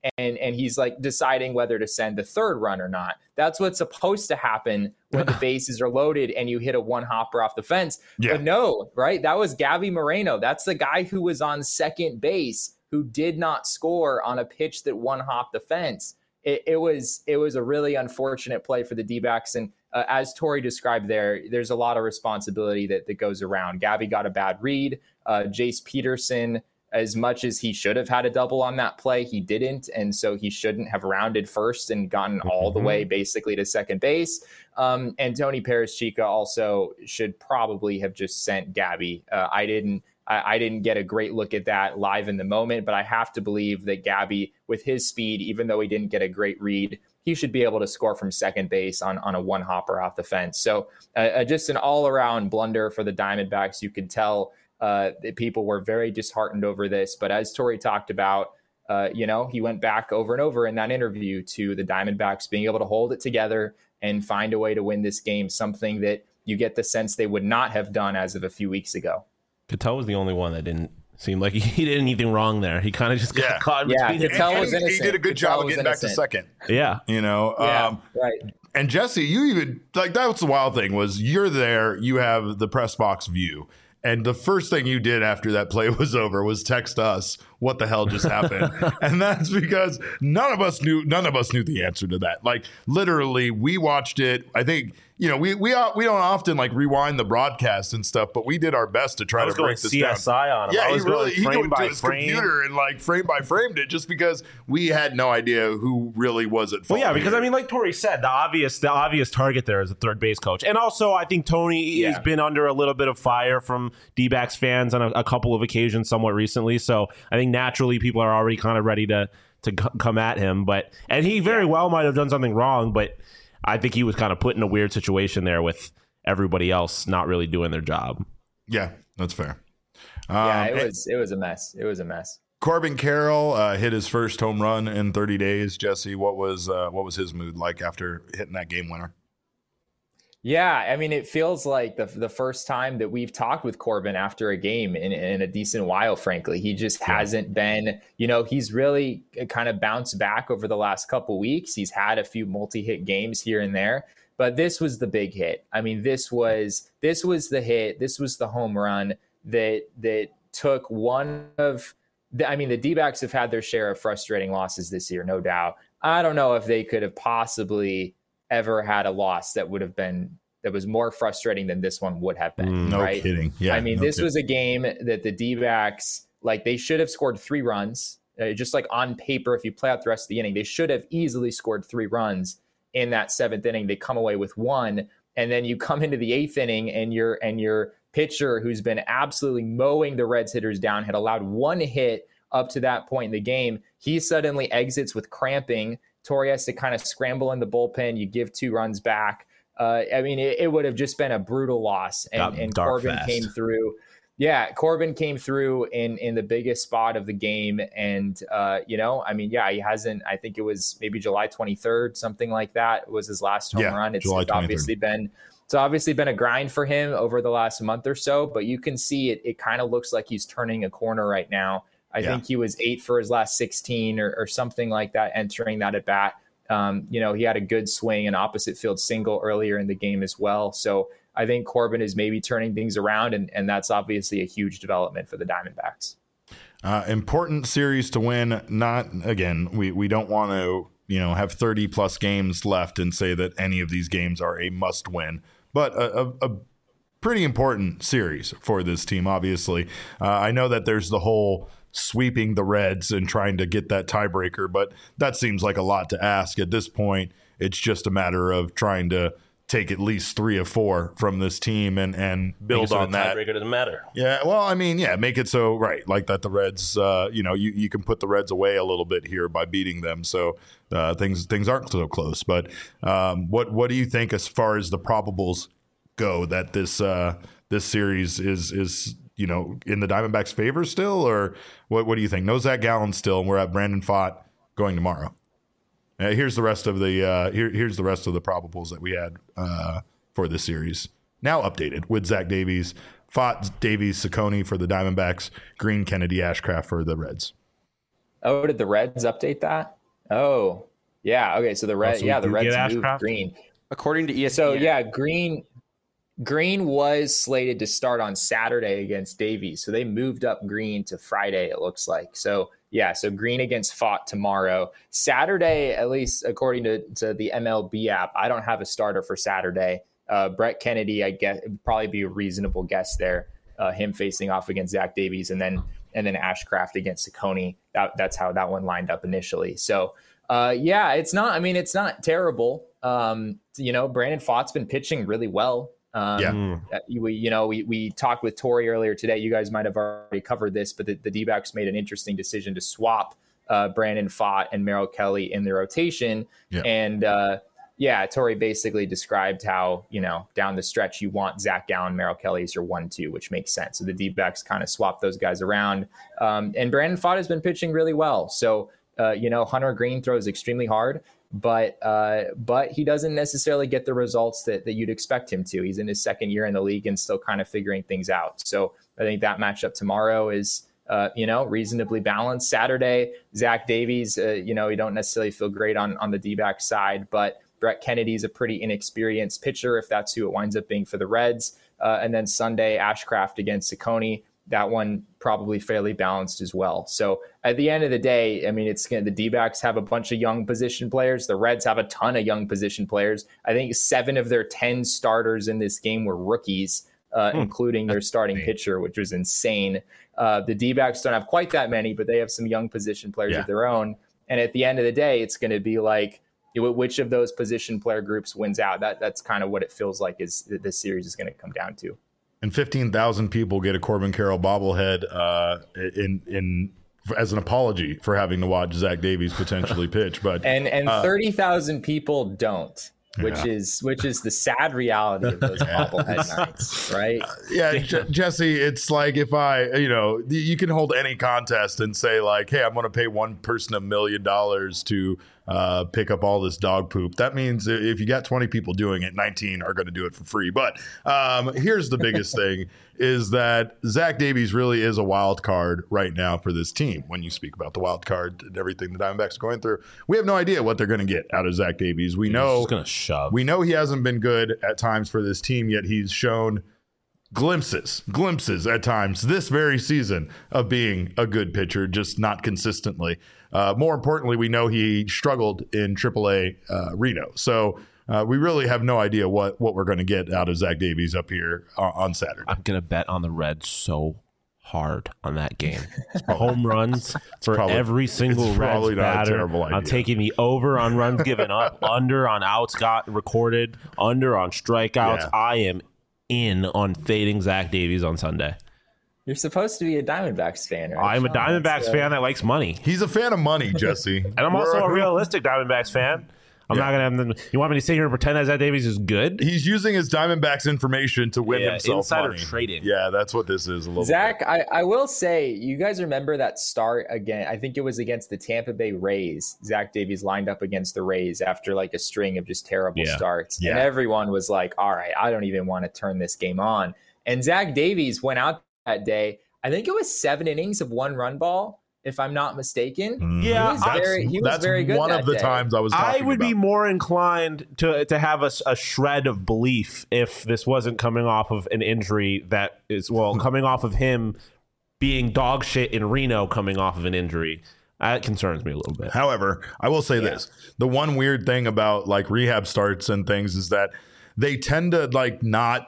and and he's like deciding whether to send the third run or not. That's what's supposed to happen when the bases are loaded and you hit a one hopper off the fence. Yeah. But no, right? That was Gabby Moreno. That's the guy who was on second base who did not score on a pitch that one hopped the fence. It, it was it was a really unfortunate play for the D-backs. And uh, as Tori described there, there's a lot of responsibility that, that goes around. Gabby got a bad read. Uh, Jace Peterson, as much as he should have had a double on that play, he didn't. And so he shouldn't have rounded first and gotten all the way basically to second base. Um, and Tony Perez-Chica also should probably have just sent Gabby. Uh, I didn't. I, I didn't get a great look at that live in the moment, but I have to believe that Gabby, with his speed, even though he didn't get a great read, he should be able to score from second base on, on a one hopper off the fence. So uh, just an all around blunder for the Diamondbacks. You could tell uh, that people were very disheartened over this. But as Tori talked about, uh, you know, he went back over and over in that interview to the Diamondbacks being able to hold it together and find a way to win this game, something that you get the sense they would not have done as of a few weeks ago. Cattell was the only one that didn't seem like he did anything wrong there. He kind of just got yeah. caught in yeah, between. Cattell was he, innocent. He did a good Cattell job of getting back to second. Yeah. You know, yeah, um, right. And Jesse, you even like that was the wild thing was you're there, you have the press box view. And the first thing you did after that play was over was text us what the hell just happened. And that's because none of us knew none of us knew the answer to that. Like literally we watched it. I think, you know, we we we don't often like rewind the broadcast and stuff, but we did our best to try I was to break going this C S I down. on him. Yeah, I was he really going he frame went by to his frame. computer and like frame by framed it just because we had no idea who really was at fault. Well, yeah, because here. I mean, like Tori said, the obvious the obvious target there is a third base coach, and also I think Tony yeah. has been under a little bit of fire from D-backs fans on a, a couple of occasions, somewhat recently. So I think naturally people are already kind of ready to to c- come at him. But and he very yeah. well might have done something wrong, but I think he was kind of put in a weird situation there with everybody else not really doing their job. Yeah, that's fair. Um, yeah, it was it was a mess. It was a mess. Corbin Carroll uh, hit his first home run in thirty days. Jesse, what was uh, what was his mood like after hitting that game winner? Yeah, I mean, it feels like the the first time that we've talked with Corbin after a game in, in a decent while, frankly. He just yeah. hasn't been, you know, he's really kind of bounced back over the last couple weeks. He's had a few multi-hit games here and there, but this was the big hit. I mean, this was this was the hit. This was the home run that that took one of the, I mean, the D-backs have had their share of frustrating losses this year, no doubt. I don't know if they could have possibly ever had a loss that would have been that was more frustrating than this one would have been. Mm, no right? kidding. Yeah. I mean, no this kidding. was a game that the D-backs, like they should have scored three runs, uh, just like on paper. If you play out the rest of the inning, they should have easily scored three runs in that seventh inning. They come away with one, and then you come into the eighth inning, and your and your pitcher, who's been absolutely mowing the Reds hitters down, had allowed one hit up to that point in the game. He suddenly exits with cramping. Tori has to kind of scramble in the bullpen. You give two runs back. Uh, I mean, it, it would have just been a brutal loss. And, and Corbin fast. came through. Yeah, Corbin came through in in the biggest spot of the game. And, uh, you know, I mean, yeah, he hasn't, I think it was maybe July twenty-third, something like that was his last home yeah, run. It's, July it's obviously been It's obviously been a grind for him over the last month or so, but you can see it. It kind of looks like he's turning a corner right now. I yeah. think he was eight for his last sixteen or, or something like that entering that at bat. Um, you know, he had a good swing, an opposite field single earlier in the game as well. So I think Corbin is maybe turning things around, and, and that's obviously a huge development for the Diamondbacks. Uh, important series to win. Not, again, we, we don't want to, you know, have thirty plus games left and say that any of these games are a must win, but a, a, a pretty important series for this team, obviously. Uh, I know that there's the whole sweeping the Reds and trying to get that tiebreaker, but that seems like a lot to ask at this point. It's just a matter of trying to take at least three or four from this team and and build on that. Tiebreaker doesn't matter. Yeah, well, I mean, yeah, make it so right, like that. The Reds, uh, you know, you, you can put the Reds away a little bit here by beating them, so uh, things things aren't so close. But um, what what do you think as far as the probables go that this uh, this series is is you know in the Diamondbacks' favor still, or what what do you think? No Zach Gallen still, and we're at Brandon Pfaadt going tomorrow. Uh, here's the rest of the uh, here, here's the rest of the probables that we had uh, for this series. Now updated with Zach Davies, Pfaadt, Davies, Ciccone for the Diamondbacks, Green, Kennedy, Ashcraft for the Reds. Oh, did the Reds update that? Oh, yeah. Okay, so the red, Oh, so yeah, we the do Reds get moved Ashcraft? Green. According to E S P N. So yeah, Green Green was slated to start on Saturday against Davies. So they moved up Green to Friday, it looks like. So yeah, so Green against Fott tomorrow. Saturday, at least according to, to the M L B app, I don't have a starter for Saturday. Uh, Brett Kennedy, I guess, would probably be a reasonable guess there. Uh, him facing off against Zach Davies, and then and then Ashcraft against Ciccone. That, that's how that one lined up initially. So uh, yeah, it's not. I mean, it's not terrible. Um, you know, Brandon Fott's been pitching really well. Um, Yeah. we, you know, we, we talked with Tori earlier today. You guys might have already covered this, but the, the D-backs made an interesting decision to swap uh, Brandon Fott and Merrill Kelly in the rotation. Yeah. And uh, yeah, Tori basically described how, you know, down the stretch, you want Zach Gallen, Merrill Kelly as your one two, which makes sense. So the D-backs kind of swapped those guys around. Um, and Brandon Fott has been pitching really well. So, uh, you know, Hunter Green throws extremely hard. But uh, but he doesn't necessarily get the results that, that you'd expect him to. He's in his second year in the league and still kind of figuring things out. So I think that matchup tomorrow is, uh, you know, reasonably balanced. Saturday, Zach Davies, uh, you know, you don't necessarily feel great on, on the D-back side, but Brett Kennedy's a pretty inexperienced pitcher if that's who it winds up being for the Reds. Uh, and then Sunday, Ashcraft against Ciccone. That one probably fairly balanced as well. So at the end of the day, I mean, it's gonna, the D-backs have a bunch of young position players. The Reds have a ton of young position players. I think seven of their ten starters in this game were rookies, uh, hmm. including their starting pitcher, which was insane. Uh, the D-backs don't have quite that many, but they have some young position players yeah. of their own. And at the end of the day, it's going to be like, which of those position player groups wins out? That That's kind of what it feels like is this series is going to come down to. And fifteen thousand people get a Corbin Carroll bobblehead uh, in in as an apology for having to watch Zach Davies potentially pitch. But and and uh, thirty thousand people don't, which yeah. is which is the sad reality of those bobblehead nights, right? Uh, yeah, J- Jesse, it's like if I, you know, you can hold any contest and say like, hey, I'm going to pay one person a million dollars to uh, pick up all this dog poop. That means if you got twenty people doing it, nineteen are going to do it for free. But um, here's the biggest thing is that Zach Davies really is a wild card right now for this team. When you speak about the wild card and everything the Diamondbacks are going through, we have no idea what they're going to get out of Zach Davies. We He's know just gonna shove. We know he hasn't been good at times for this team, yet he's shown glimpses, glimpses at times this very season of being a good pitcher, just not consistently. Uh, more importantly, we know he struggled in triple A uh, Reno. So uh, we really have no idea what, what we're going to get out of Zach Davies up here on, on Saturday. I'm going to bet on the Reds so hard on that game. Home runs for probably, every single Reds batter. I'm taking the over on runs given up, under on outs got recorded, under on strikeouts. Yeah. I am in on fading Zach Davies on Sunday. You're supposed to be a Diamondbacks fan, right? I'm a Diamondbacks fan that likes money. He's a fan of money, Jesse. And I'm also a realistic Diamondbacks fan. I'm yeah. not going to have them. You want me to sit here and pretend that Zach Davies is good? He's using his Diamondbacks information to win yeah, himself insider money. trading. Yeah, that's what this is a little Zach, bit. I, I will say, you guys remember that start again? I think it was against the Tampa Bay Rays. Zach Davies lined up against the Rays after like a string of just terrible yeah. starts. Yeah. And everyone was like, all right, I don't even want to turn this game on. And Zach Davies went out that day. I think it was seven innings of one run ball, if I'm not mistaken. Yeah, he was very, he was that's very good one that of the day. times I was talking I would about. be more inclined to to have a, a shred of belief if this wasn't coming off of an injury that is, well, coming off of him being dog shit in Reno, coming off of an injury. That concerns me a little bit. However, I will say yeah. this. The one weird thing about like rehab starts and things is that they tend to like not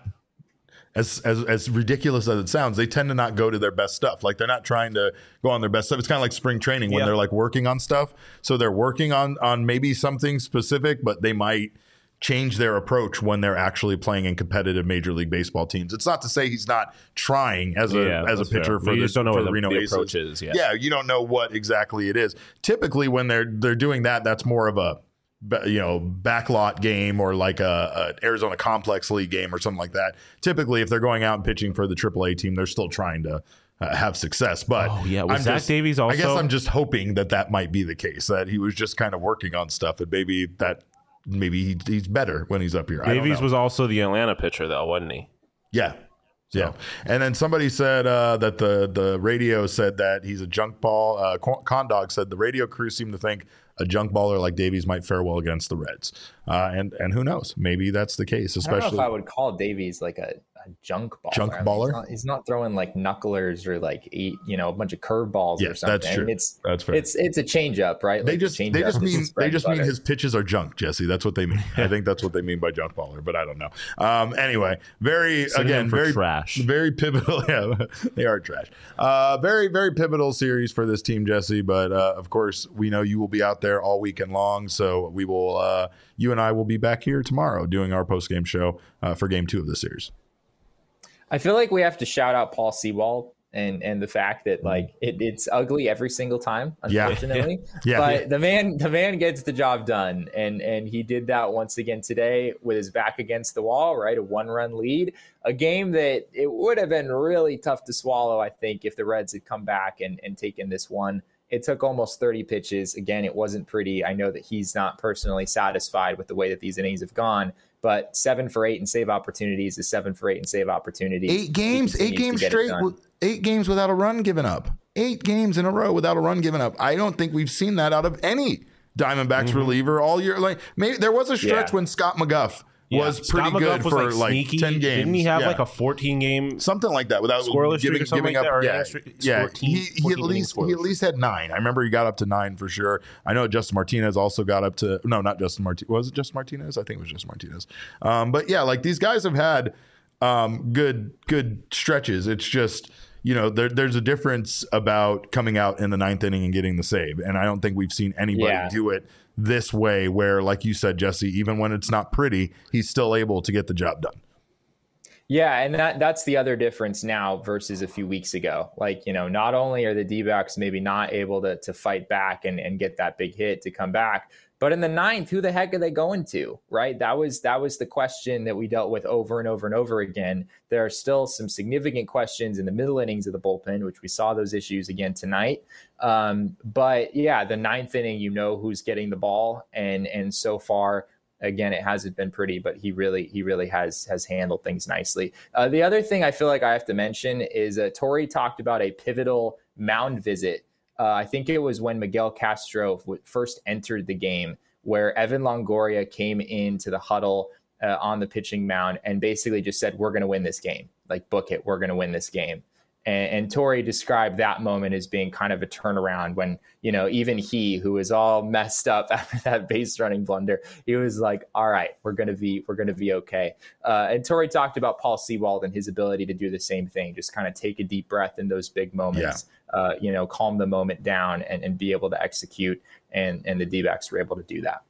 As, as as ridiculous as it sounds, they tend to not go to their best stuff. Like they're not trying to go on their best stuff. It's kind of like spring training when yeah. they're like working on stuff. So they're working on on maybe something specific, but they might change their approach when they're actually playing in competitive Major League Baseball teams. It's not to say he's not trying as a yeah, as a pitcher fair. for you the, just don't know for what the the, Reno the Aces. approach is. Yeah. yeah, you don't know what exactly it is. Typically, when they're they're doing that, that's more of a you know, backlot game or like a, a Arizona Complex League game or something like that. Typically, if they're going out and pitching for the triple A team, they're still trying to uh, have success. But oh, yeah. Was I'm Zach just, Davies also? I guess I'm just hoping that that might be the case, that he was just kind of working on stuff, and maybe that maybe he, he's better when he's up here. Davies was also the Atlanta pitcher, though, wasn't he? Yeah. So. Yeah. And then somebody said uh, that the, the radio said that he's a junk ball. Uh, Condog said the radio crew seemed to think a junk baller like Davies might fare well against the Reds. Uh, and and who knows? Maybe that's the case. Especially, I don't know if I would call Davies like a, a junk baller. Junk I mean, baller. He's not, he's not throwing like knucklers or like eight, you know, a bunch of curveballs yes, or something. that's true. I mean, it's that's fair. It's it's a changeup, right? They like just the they just mean they just mean butter. his pitches are junk, Jesse. That's what they mean. I think that's what they mean by junk baller, but I don't know. Um, anyway, very Synonym again for very trash. very pivotal. Yeah, they are trash. Uh, very very pivotal series for this team, Jesse. But uh, of course, we know you will be out there all weekend long, so we will. Uh, you and I will be back here tomorrow doing our post game show uh, for Game Two of the series. I feel like we have to shout out Paul Sewald and and the fact that like it, it's ugly every single time, unfortunately. Yeah. yeah. But yeah. the man the man gets the job done, and and he did that once again today with his back against the wall, right? A one run lead, a game that it would have been really tough to swallow, I think, if the Reds had come back and and taken this one. It took almost thirty pitches. Again, it wasn't pretty. I know that he's not personally satisfied with the way that these innings have gone, but seven for eight and save opportunities is seven for eight and save opportunities. Eight games, He eight continues games to get it straight, done. with- eight games without a run given up. Eight games in a row without a run given up. I don't think we've seen that out of any Diamondbacks Mm-hmm. reliever all year. Like maybe there was a stretch Yeah. when Scott McGuff Yeah. was Scott pretty McGuff good was, for like, like sneaky. ten games. Didn't he have Yeah. like a fourteen game something like that without scoreless streak giving, or something giving like up? that, or Yeah, streak- yeah. fourteen, He, he at fourteen least he innings at least had nine. I remember he got up to nine for sure. I know Justin Martinez also got up to no, not Justin Martinez. Was it Justin Martinez? I think it was Justin Martinez. Um, but yeah, like these guys have had um, good good stretches. It's just. You know, there, there's a difference about coming out in the ninth inning and getting the save. And I don't think we've seen anybody Yeah. do it this way where, like you said, Jesse, even when it's not pretty, he's still able to get the job done. Yeah, and that that's the other difference now versus a few weeks ago. Like, you know, not only are the D-backs maybe not able to to fight back and, and get that big hit to come back, but in the ninth, who the heck are they going to, right? That was that was the question that we dealt with over and over and over again. There are still some significant questions in the middle innings of the bullpen, which we saw those issues again tonight. Um, but yeah, the ninth inning, you know who's getting the ball, and and so far, again, it hasn't been pretty, but he really he really has has handled things nicely. Uh, the other thing I feel like I have to mention is uh, Torey talked about a pivotal mound visit. Uh, I think it was when Miguel Castro w- first entered the game, where Evan Longoria came into the huddle uh, on the pitching mound and basically just said, "We're going to win this game. Like, book it. We're going to win this game." And, and Torey described that moment as being kind of a turnaround when, you know, even he, who was all messed up after that base running blunder, he was like, "All right, we're going to be, we're going to be okay." Uh, and Torey talked about Paul Sewald and his ability to do the same thing, just kind of take a deep breath in those big moments, yeah. uh, you know, calm the moment down and, and be able to execute. And, and the D-backs were able to do that.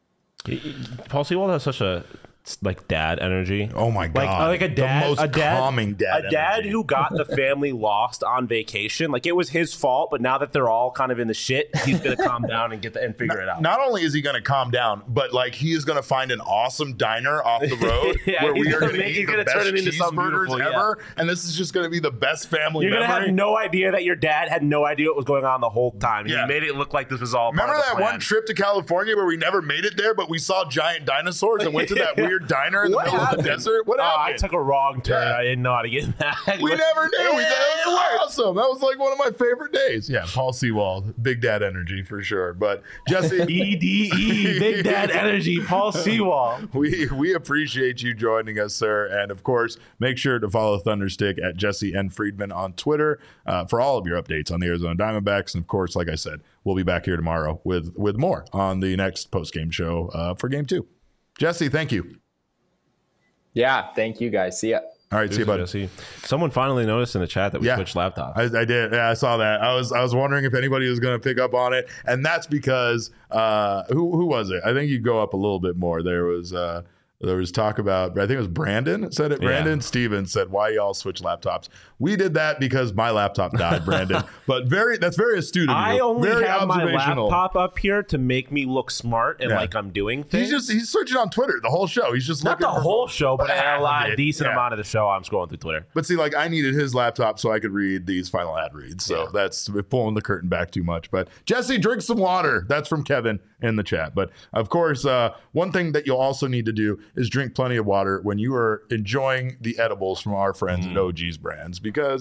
Paul Sewald has such a like dad energy. Oh my god! Like, like a dad, the most a dad, calming dad, a dad energy. who got the family lost on vacation. Like it was his fault, but now that they're all kind of in the shit, he's gonna calm down and get the, and figure not, it out. Not only is he gonna calm down, but like he is gonna find an awesome diner off the road yeah, where we are gonna gonna make, eat the gonna best turn it into something cheeseburgers beautiful, ever, yeah. and this is just gonna be the best family. You're gonna memory. have no idea that your dad had no idea what was going on the whole time. Yeah. He made it look like this was all. Remember part of that the plan. one trip to California where we never made it there, but we saw giant dinosaurs and went to that weird diner in the What middle happened? of the desert? What oh, happened? I took a wrong turn. Yeah. I didn't know how to get in that. We never knew. We thought it was awesome. That was like one of my favorite days. Yeah, Paul Sewald, big dad energy for sure. But Jesse, E D E, Big Dad Energy, Paul Sewald. we we appreciate you joining us, sir. And of course, make sure to follow Thunderstick at Jesse N. Friedman on Twitter uh, for all of your updates on the Arizona Diamondbacks. And of course, like I said, we'll be back here tomorrow with with more on the next post game show uh, for Game Two. Jesse, thank you. Yeah, thank you guys. See ya. All right, see you, bud. Jesse. Someone finally noticed in the chat that we Yeah. switched laptops. I, I did. Yeah, I saw that. I was I was wondering if anybody was going to pick up on it, and that's because uh, who who was it? I think you go up a little bit more. There was uh, there was talk about. I think it was Brandon said it. Brandon Yeah. Stevens said, "Why y'all switch laptops?" We did that because my laptop died, Brandon. But very that's very astute of you. I only very have my observational. laptop up here to make me look smart and Yeah. like I'm doing things. He's just he's searching on Twitter the whole show. He's just not looking the for- whole show, but half a lot, of a it. decent Yeah. amount of the show. I'm scrolling through Twitter. But see, like I needed his laptop so I could read these final ad reads. So Yeah. that's pulling the curtain back too much. But Jesse, drink some water. That's from Kevin in the chat. But of course, uh, one thing that you'll also need to do is drink plenty of water when you are enjoying the edibles from our friends Mm. at O G's Brands, because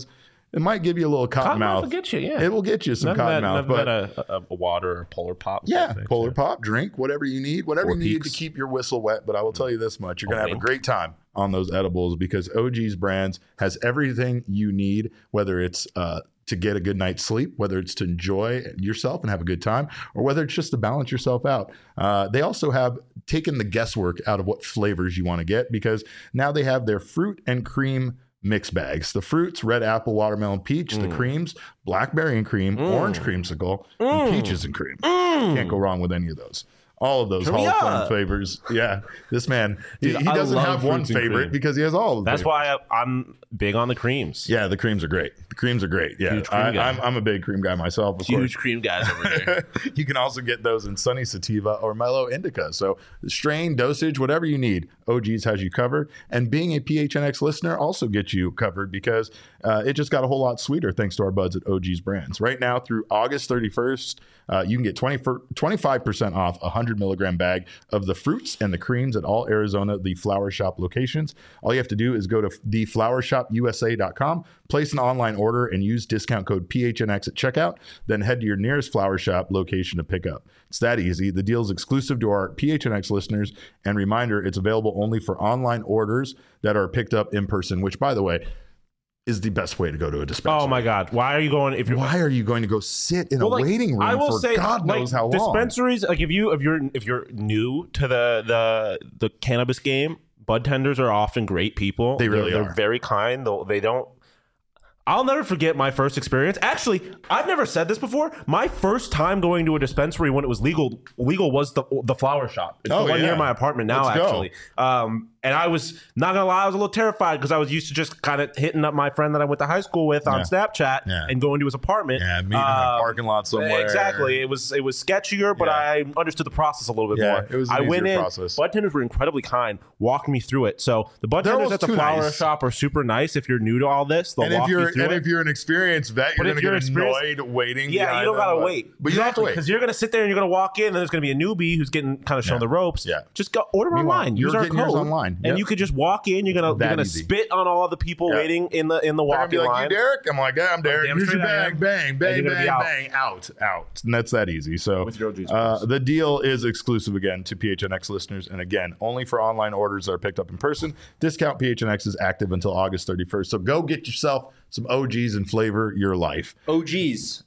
it might give you a little cotton, Cotton mouth. will get you, yeah. It will get you some None cotton of that, mouth. none But of that a, a, a water or polar pop. yeah, thing, polar so. pop, drink, whatever you need, whatever Four you need Peaks. to keep your whistle wet. But I will tell you this much, you're going to have a Wink. great time on those edibles because O G's Brands has everything you need, whether it's uh, to get a good night's sleep, whether it's to enjoy yourself and have a good time, or whether it's just to balance yourself out. Uh, they also have taken the guesswork out of what flavors you want to get because now they have their fruit and cream mix bags. The fruits, red apple, watermelon, peach. Mm. The creams, blackberry and cream, mm. orange creamsicle, mm. and peaches and cream. Mm. Can't go wrong with any of those. All of those Turn Hall me of Fame up. flavors. Yeah, this man, Dude, he, he I doesn't love have one fruits and favorite cream. because he has all of them. That's why I, I'm big on the creams. Yeah, the creams are great. The creams are great. Yeah, Huge cream I, guy. I'm, I'm a big cream guy myself. Of Huge course. cream guys over there. You can also get those in Sunny Sativa or Mellow Indica. So strain, dosage, whatever you need, O G's has you covered. And being a P H N X listener also gets you covered because uh, it just got a whole lot sweeter thanks to our buds at O G's Brands. Right now through August thirty-first, uh, you can get twenty for, twenty-five percent off a one hundred milligram bag of the fruits and the creams at all Arizona The Flower Shop locations. All you have to do is go to the flower shop u s a dot com, place an online order, and use discount code P H N X at checkout. Then head to your nearest Flower Shop location to pick up. It's that easy. The deal is exclusive to our P H N X listeners. And reminder, it's available only for online orders that are picked up in person, which, by the way, is the best way to go to a dispensary. Oh my God! Why are you going? If you're Why are you going to go sit in Well, a like, waiting room I will for say, God like, knows how long? dispensaries, like if you if you're if you're new to the the the cannabis game, bud tenders are often great people. They really they're, are. They're very kind. Though they don't. I'll never forget my first experience. Actually, I've never said this before. My first time going to a dispensary when it was legal legal was the the flower shop. It's Oh, the one yeah. near my apartment now, Let's go. actually. Um, and I was not gonna lie, I was a little terrified because I was used to just kind of hitting up my friend that I went to high school with on Yeah. Snapchat Yeah. and going to his apartment. Yeah, meeting in a Um, parking lot somewhere. Exactly. It was it was sketchier, but Yeah. I understood the process a little bit Yeah, more. it was an I went easier in. process. Bud tenders were incredibly kind, walking me through it. So the bud They're tenders almost at the too flower nice. shop are super nice. If you're new to all this, they'll And if walk you're you through and it. if you're an experienced vet, But you're if going to you're get experienced- annoyed waiting. Yeah, behind you don't them, gotta but- wait. But you don't have to wait. because you're gonna sit there and you're gonna walk in, and there's gonna be a newbie who's getting kind of shown Yeah. the ropes. Yeah. just go order Meanwhile, online. you're Use our getting yours code online. Yep. and you could just walk in. You're gonna That you're gonna easy. spit on all the people Yeah. waiting in the in the They're gonna be walking like, line. you Derek? I'm like, yeah, I'm Derek. damn Here's your straight I bag. am. Bang, And bang, you're gonna bang, be out. bang. Out, out. And that's that easy. So With your O G's uh, first. the deal is exclusive again to P H N X listeners. And again, only for online orders that are picked up in person. Discount P H N X is active until August thirty-first. So go get yourself some O Gs and flavor your life. O Gs.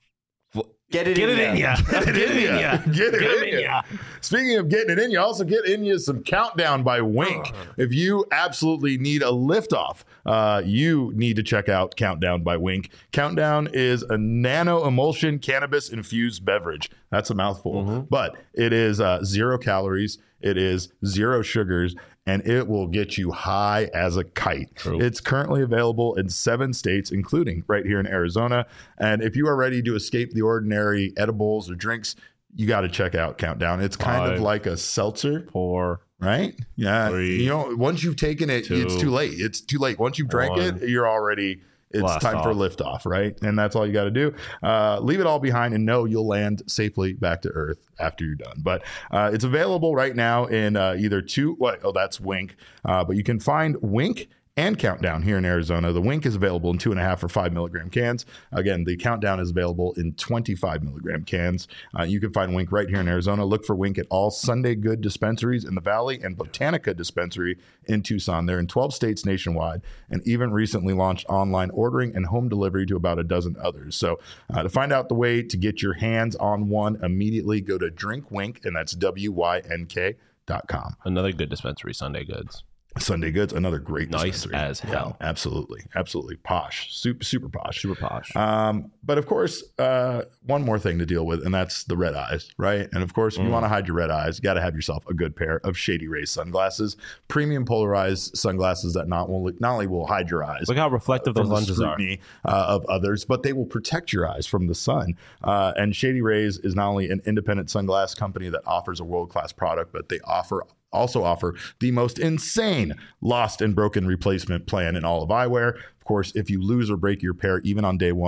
Get it Get in it in ya. ya. Get it in ya. Get it Get in, it in ya. ya. Speaking of getting it in you, also get in you some Countdown by Wink. If you absolutely need a liftoff, uh, you need to check out Countdown by Wink. Countdown is a nano emulsion cannabis infused beverage. That's a mouthful, but it is uh, zero calories. It is zero sugars, and it will get you high as a kite. True. It's currently available in seven states, including right here in Arizona. And if you are ready to escape the ordinary edibles or drinks, you got to check out Countdown. It's kind Five. of like a seltzer, Four. right? Yeah. Three. You know, once you've taken it, Two. it's too late. It's too late. Once you've drank One. it, you're already... It's Blast time for off. liftoff, right? And that's all you got to do. Uh, leave it all behind and know you'll land safely back to Earth after you're done. But uh, it's available right now in uh, either two. What? Oh, that's Wink. Uh, but you can find Wink and Countdown here in Arizona. The Wink is available in two and a half or five milligram cans. Again, the Countdown is available in twenty-five milligram cans. Uh, you can find Wink right here in Arizona. Look for Wink at all Sunday Good dispensaries in the Valley and Botanica dispensary in Tucson. They're in twelve states nationwide and even recently launched online ordering and home delivery to about a dozen others. So uh, to find out the way to get your hands on one immediately, go to Drink Wink, and that's W Y N K dot com. Another good dispensary, Sunday Goods. Sunday Goods, another great Nice dispensary. as hell. Yeah, absolutely, absolutely posh, super, super posh, Super posh. Um, but of course, uh, one more thing to deal with, and that's the red eyes, right? And of course, if you Mm. want to hide your red eyes, you got to have yourself a good pair of Shady Rays sunglasses, premium polarized sunglasses that not only not only will hide your eyes, Look how reflective from those the lenses are. scrutiny uh, of others, but they will protect your eyes from the sun. Uh, and Shady Rays is not only an independent sunglass company that offers a world-class product, but they offer also offer the most insane lost and broken replacement plan in all of eyewear. Of course, if you lose or break your pair, even on day one,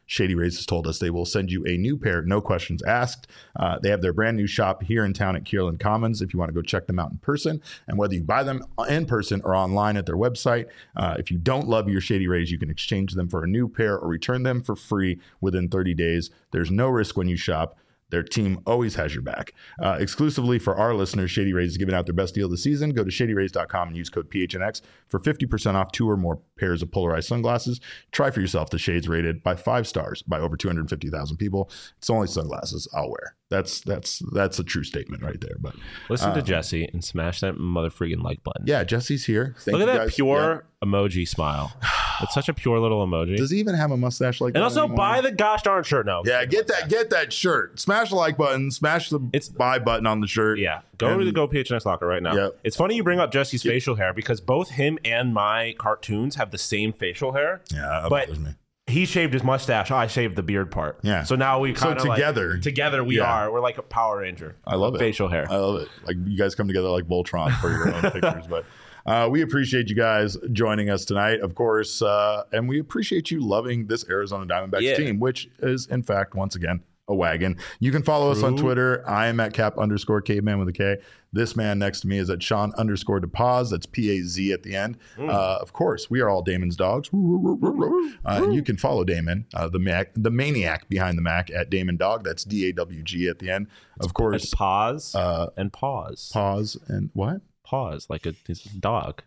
Shady Rays has told us they will send you a new pair, no questions asked. Uh, they have their brand new shop here in town at Kierland Commons if you want to go check them out in person. And whether you buy them in person or online at their website, uh, if you don't love your Shady Rays, you can exchange them for a new pair or return them for free within thirty days. There's no risk when you shop. Their team always has your back. Uh, exclusively for our listeners, Shady Rays is giving out their best deal of the season. Go to shady rays dot com and use code P H N X for fifty percent off two or more pairs of polarized sunglasses. Try for yourself the shades rated by five stars by over two hundred fifty thousand people. It's only sunglasses I'll wear. That's that's that's a true statement right there. But listen uh, to Jesse and smash that mother freaking like button. Yeah, Jesse's here. Thank Look at you that guys. pure yeah. emoji smile. It's such a pure little emoji. Does he even have a mustache like and that? And also anymore? buy the gosh darn shirt now. Yeah, get that get that shirt. Smash the like button. Smash the it's, buy button on the shirt. Yeah, go and, to the Go P H N X locker right now. Yep. It's funny you bring up Jesse's yep. facial hair because both him and my cartoons have the same facial hair. Yeah, that but bothers me. He shaved his mustache. I shaved the beard part. Yeah. So now we kind of so together. Like, together we yeah. are. We're like a Power Ranger. I love it. Facial hair. I love it. Like you guys come together like Voltron for your own pictures. But uh, we appreciate you guys joining us tonight, of course, uh, and we appreciate you loving this Arizona Diamondbacks yeah. team, which is in fact once again a wagon. You can follow True. us on Twitter. I am at cap underscore caveman with a K. This man next to me is at Sean underscore DePaz. That's P A Z at the end. Mm. Uh, of course, we are all Damon's dogs. Uh, and you can follow Damon, uh, the Mac, the maniac behind the Mac, at Damon Dog. That's D A W G at the end. It's, of course, it's pause uh, and pause. Pause and what? Pause, like a, a dog.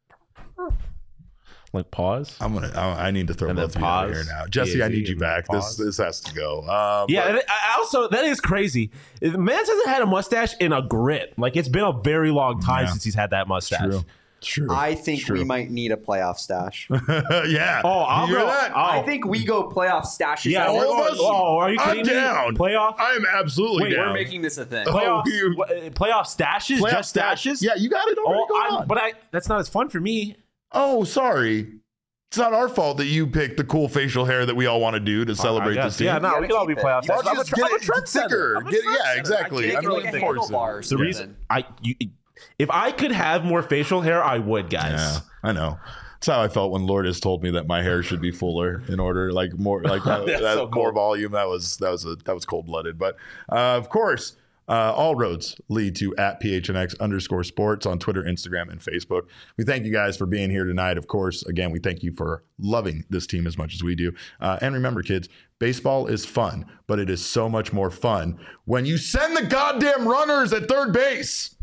Like pause. I'm gonna. I, I need to throw and both of you out here now, Jesse. P A Z I need you back. This this has to go. Um, yeah. But, I also, that is crazy. The man hasn't had a mustache in a grip. Like it's been a very long time yeah. since he's had that mustache. True. True. I think True. we might need a playoff stash. yeah. Oh, I'll you hear go. that? I'll, I think we go playoff stashes. Yeah. all of us. Oh, are you kidding I'm down. me? Playoff. I am absolutely Wait, down. we're making this a thing. Playoff. Oh, you, playoff stashes. playoff just stash. stashes. Yeah, you got it already Oh, going I'm, on. but I. That's not as fun for me. Oh, sorry. It's not our fault that you picked the cool facial hair that we all want to do to celebrate this team. Yeah, no, we can all be playoff Why stars. don't you just get it thicker? Get, yeah, exactly. I like a handlebar. The reason I, you, if I could have more facial hair, I would, guys. Yeah, I know. That's how I felt when Lourdes told me that my hair should be fuller in order, like more, like that, that so cool. more volume. That was that was a that was cold blooded. But uh, of course. Uh, all roads lead to at P H N X underscore sports on Twitter, Instagram, and Facebook. We thank you guys for being here tonight. Of course, again, we thank you for loving this team as much as we do. Uh, and remember, kids, baseball is fun, but it is so much more fun when you send the goddamn runners at third base.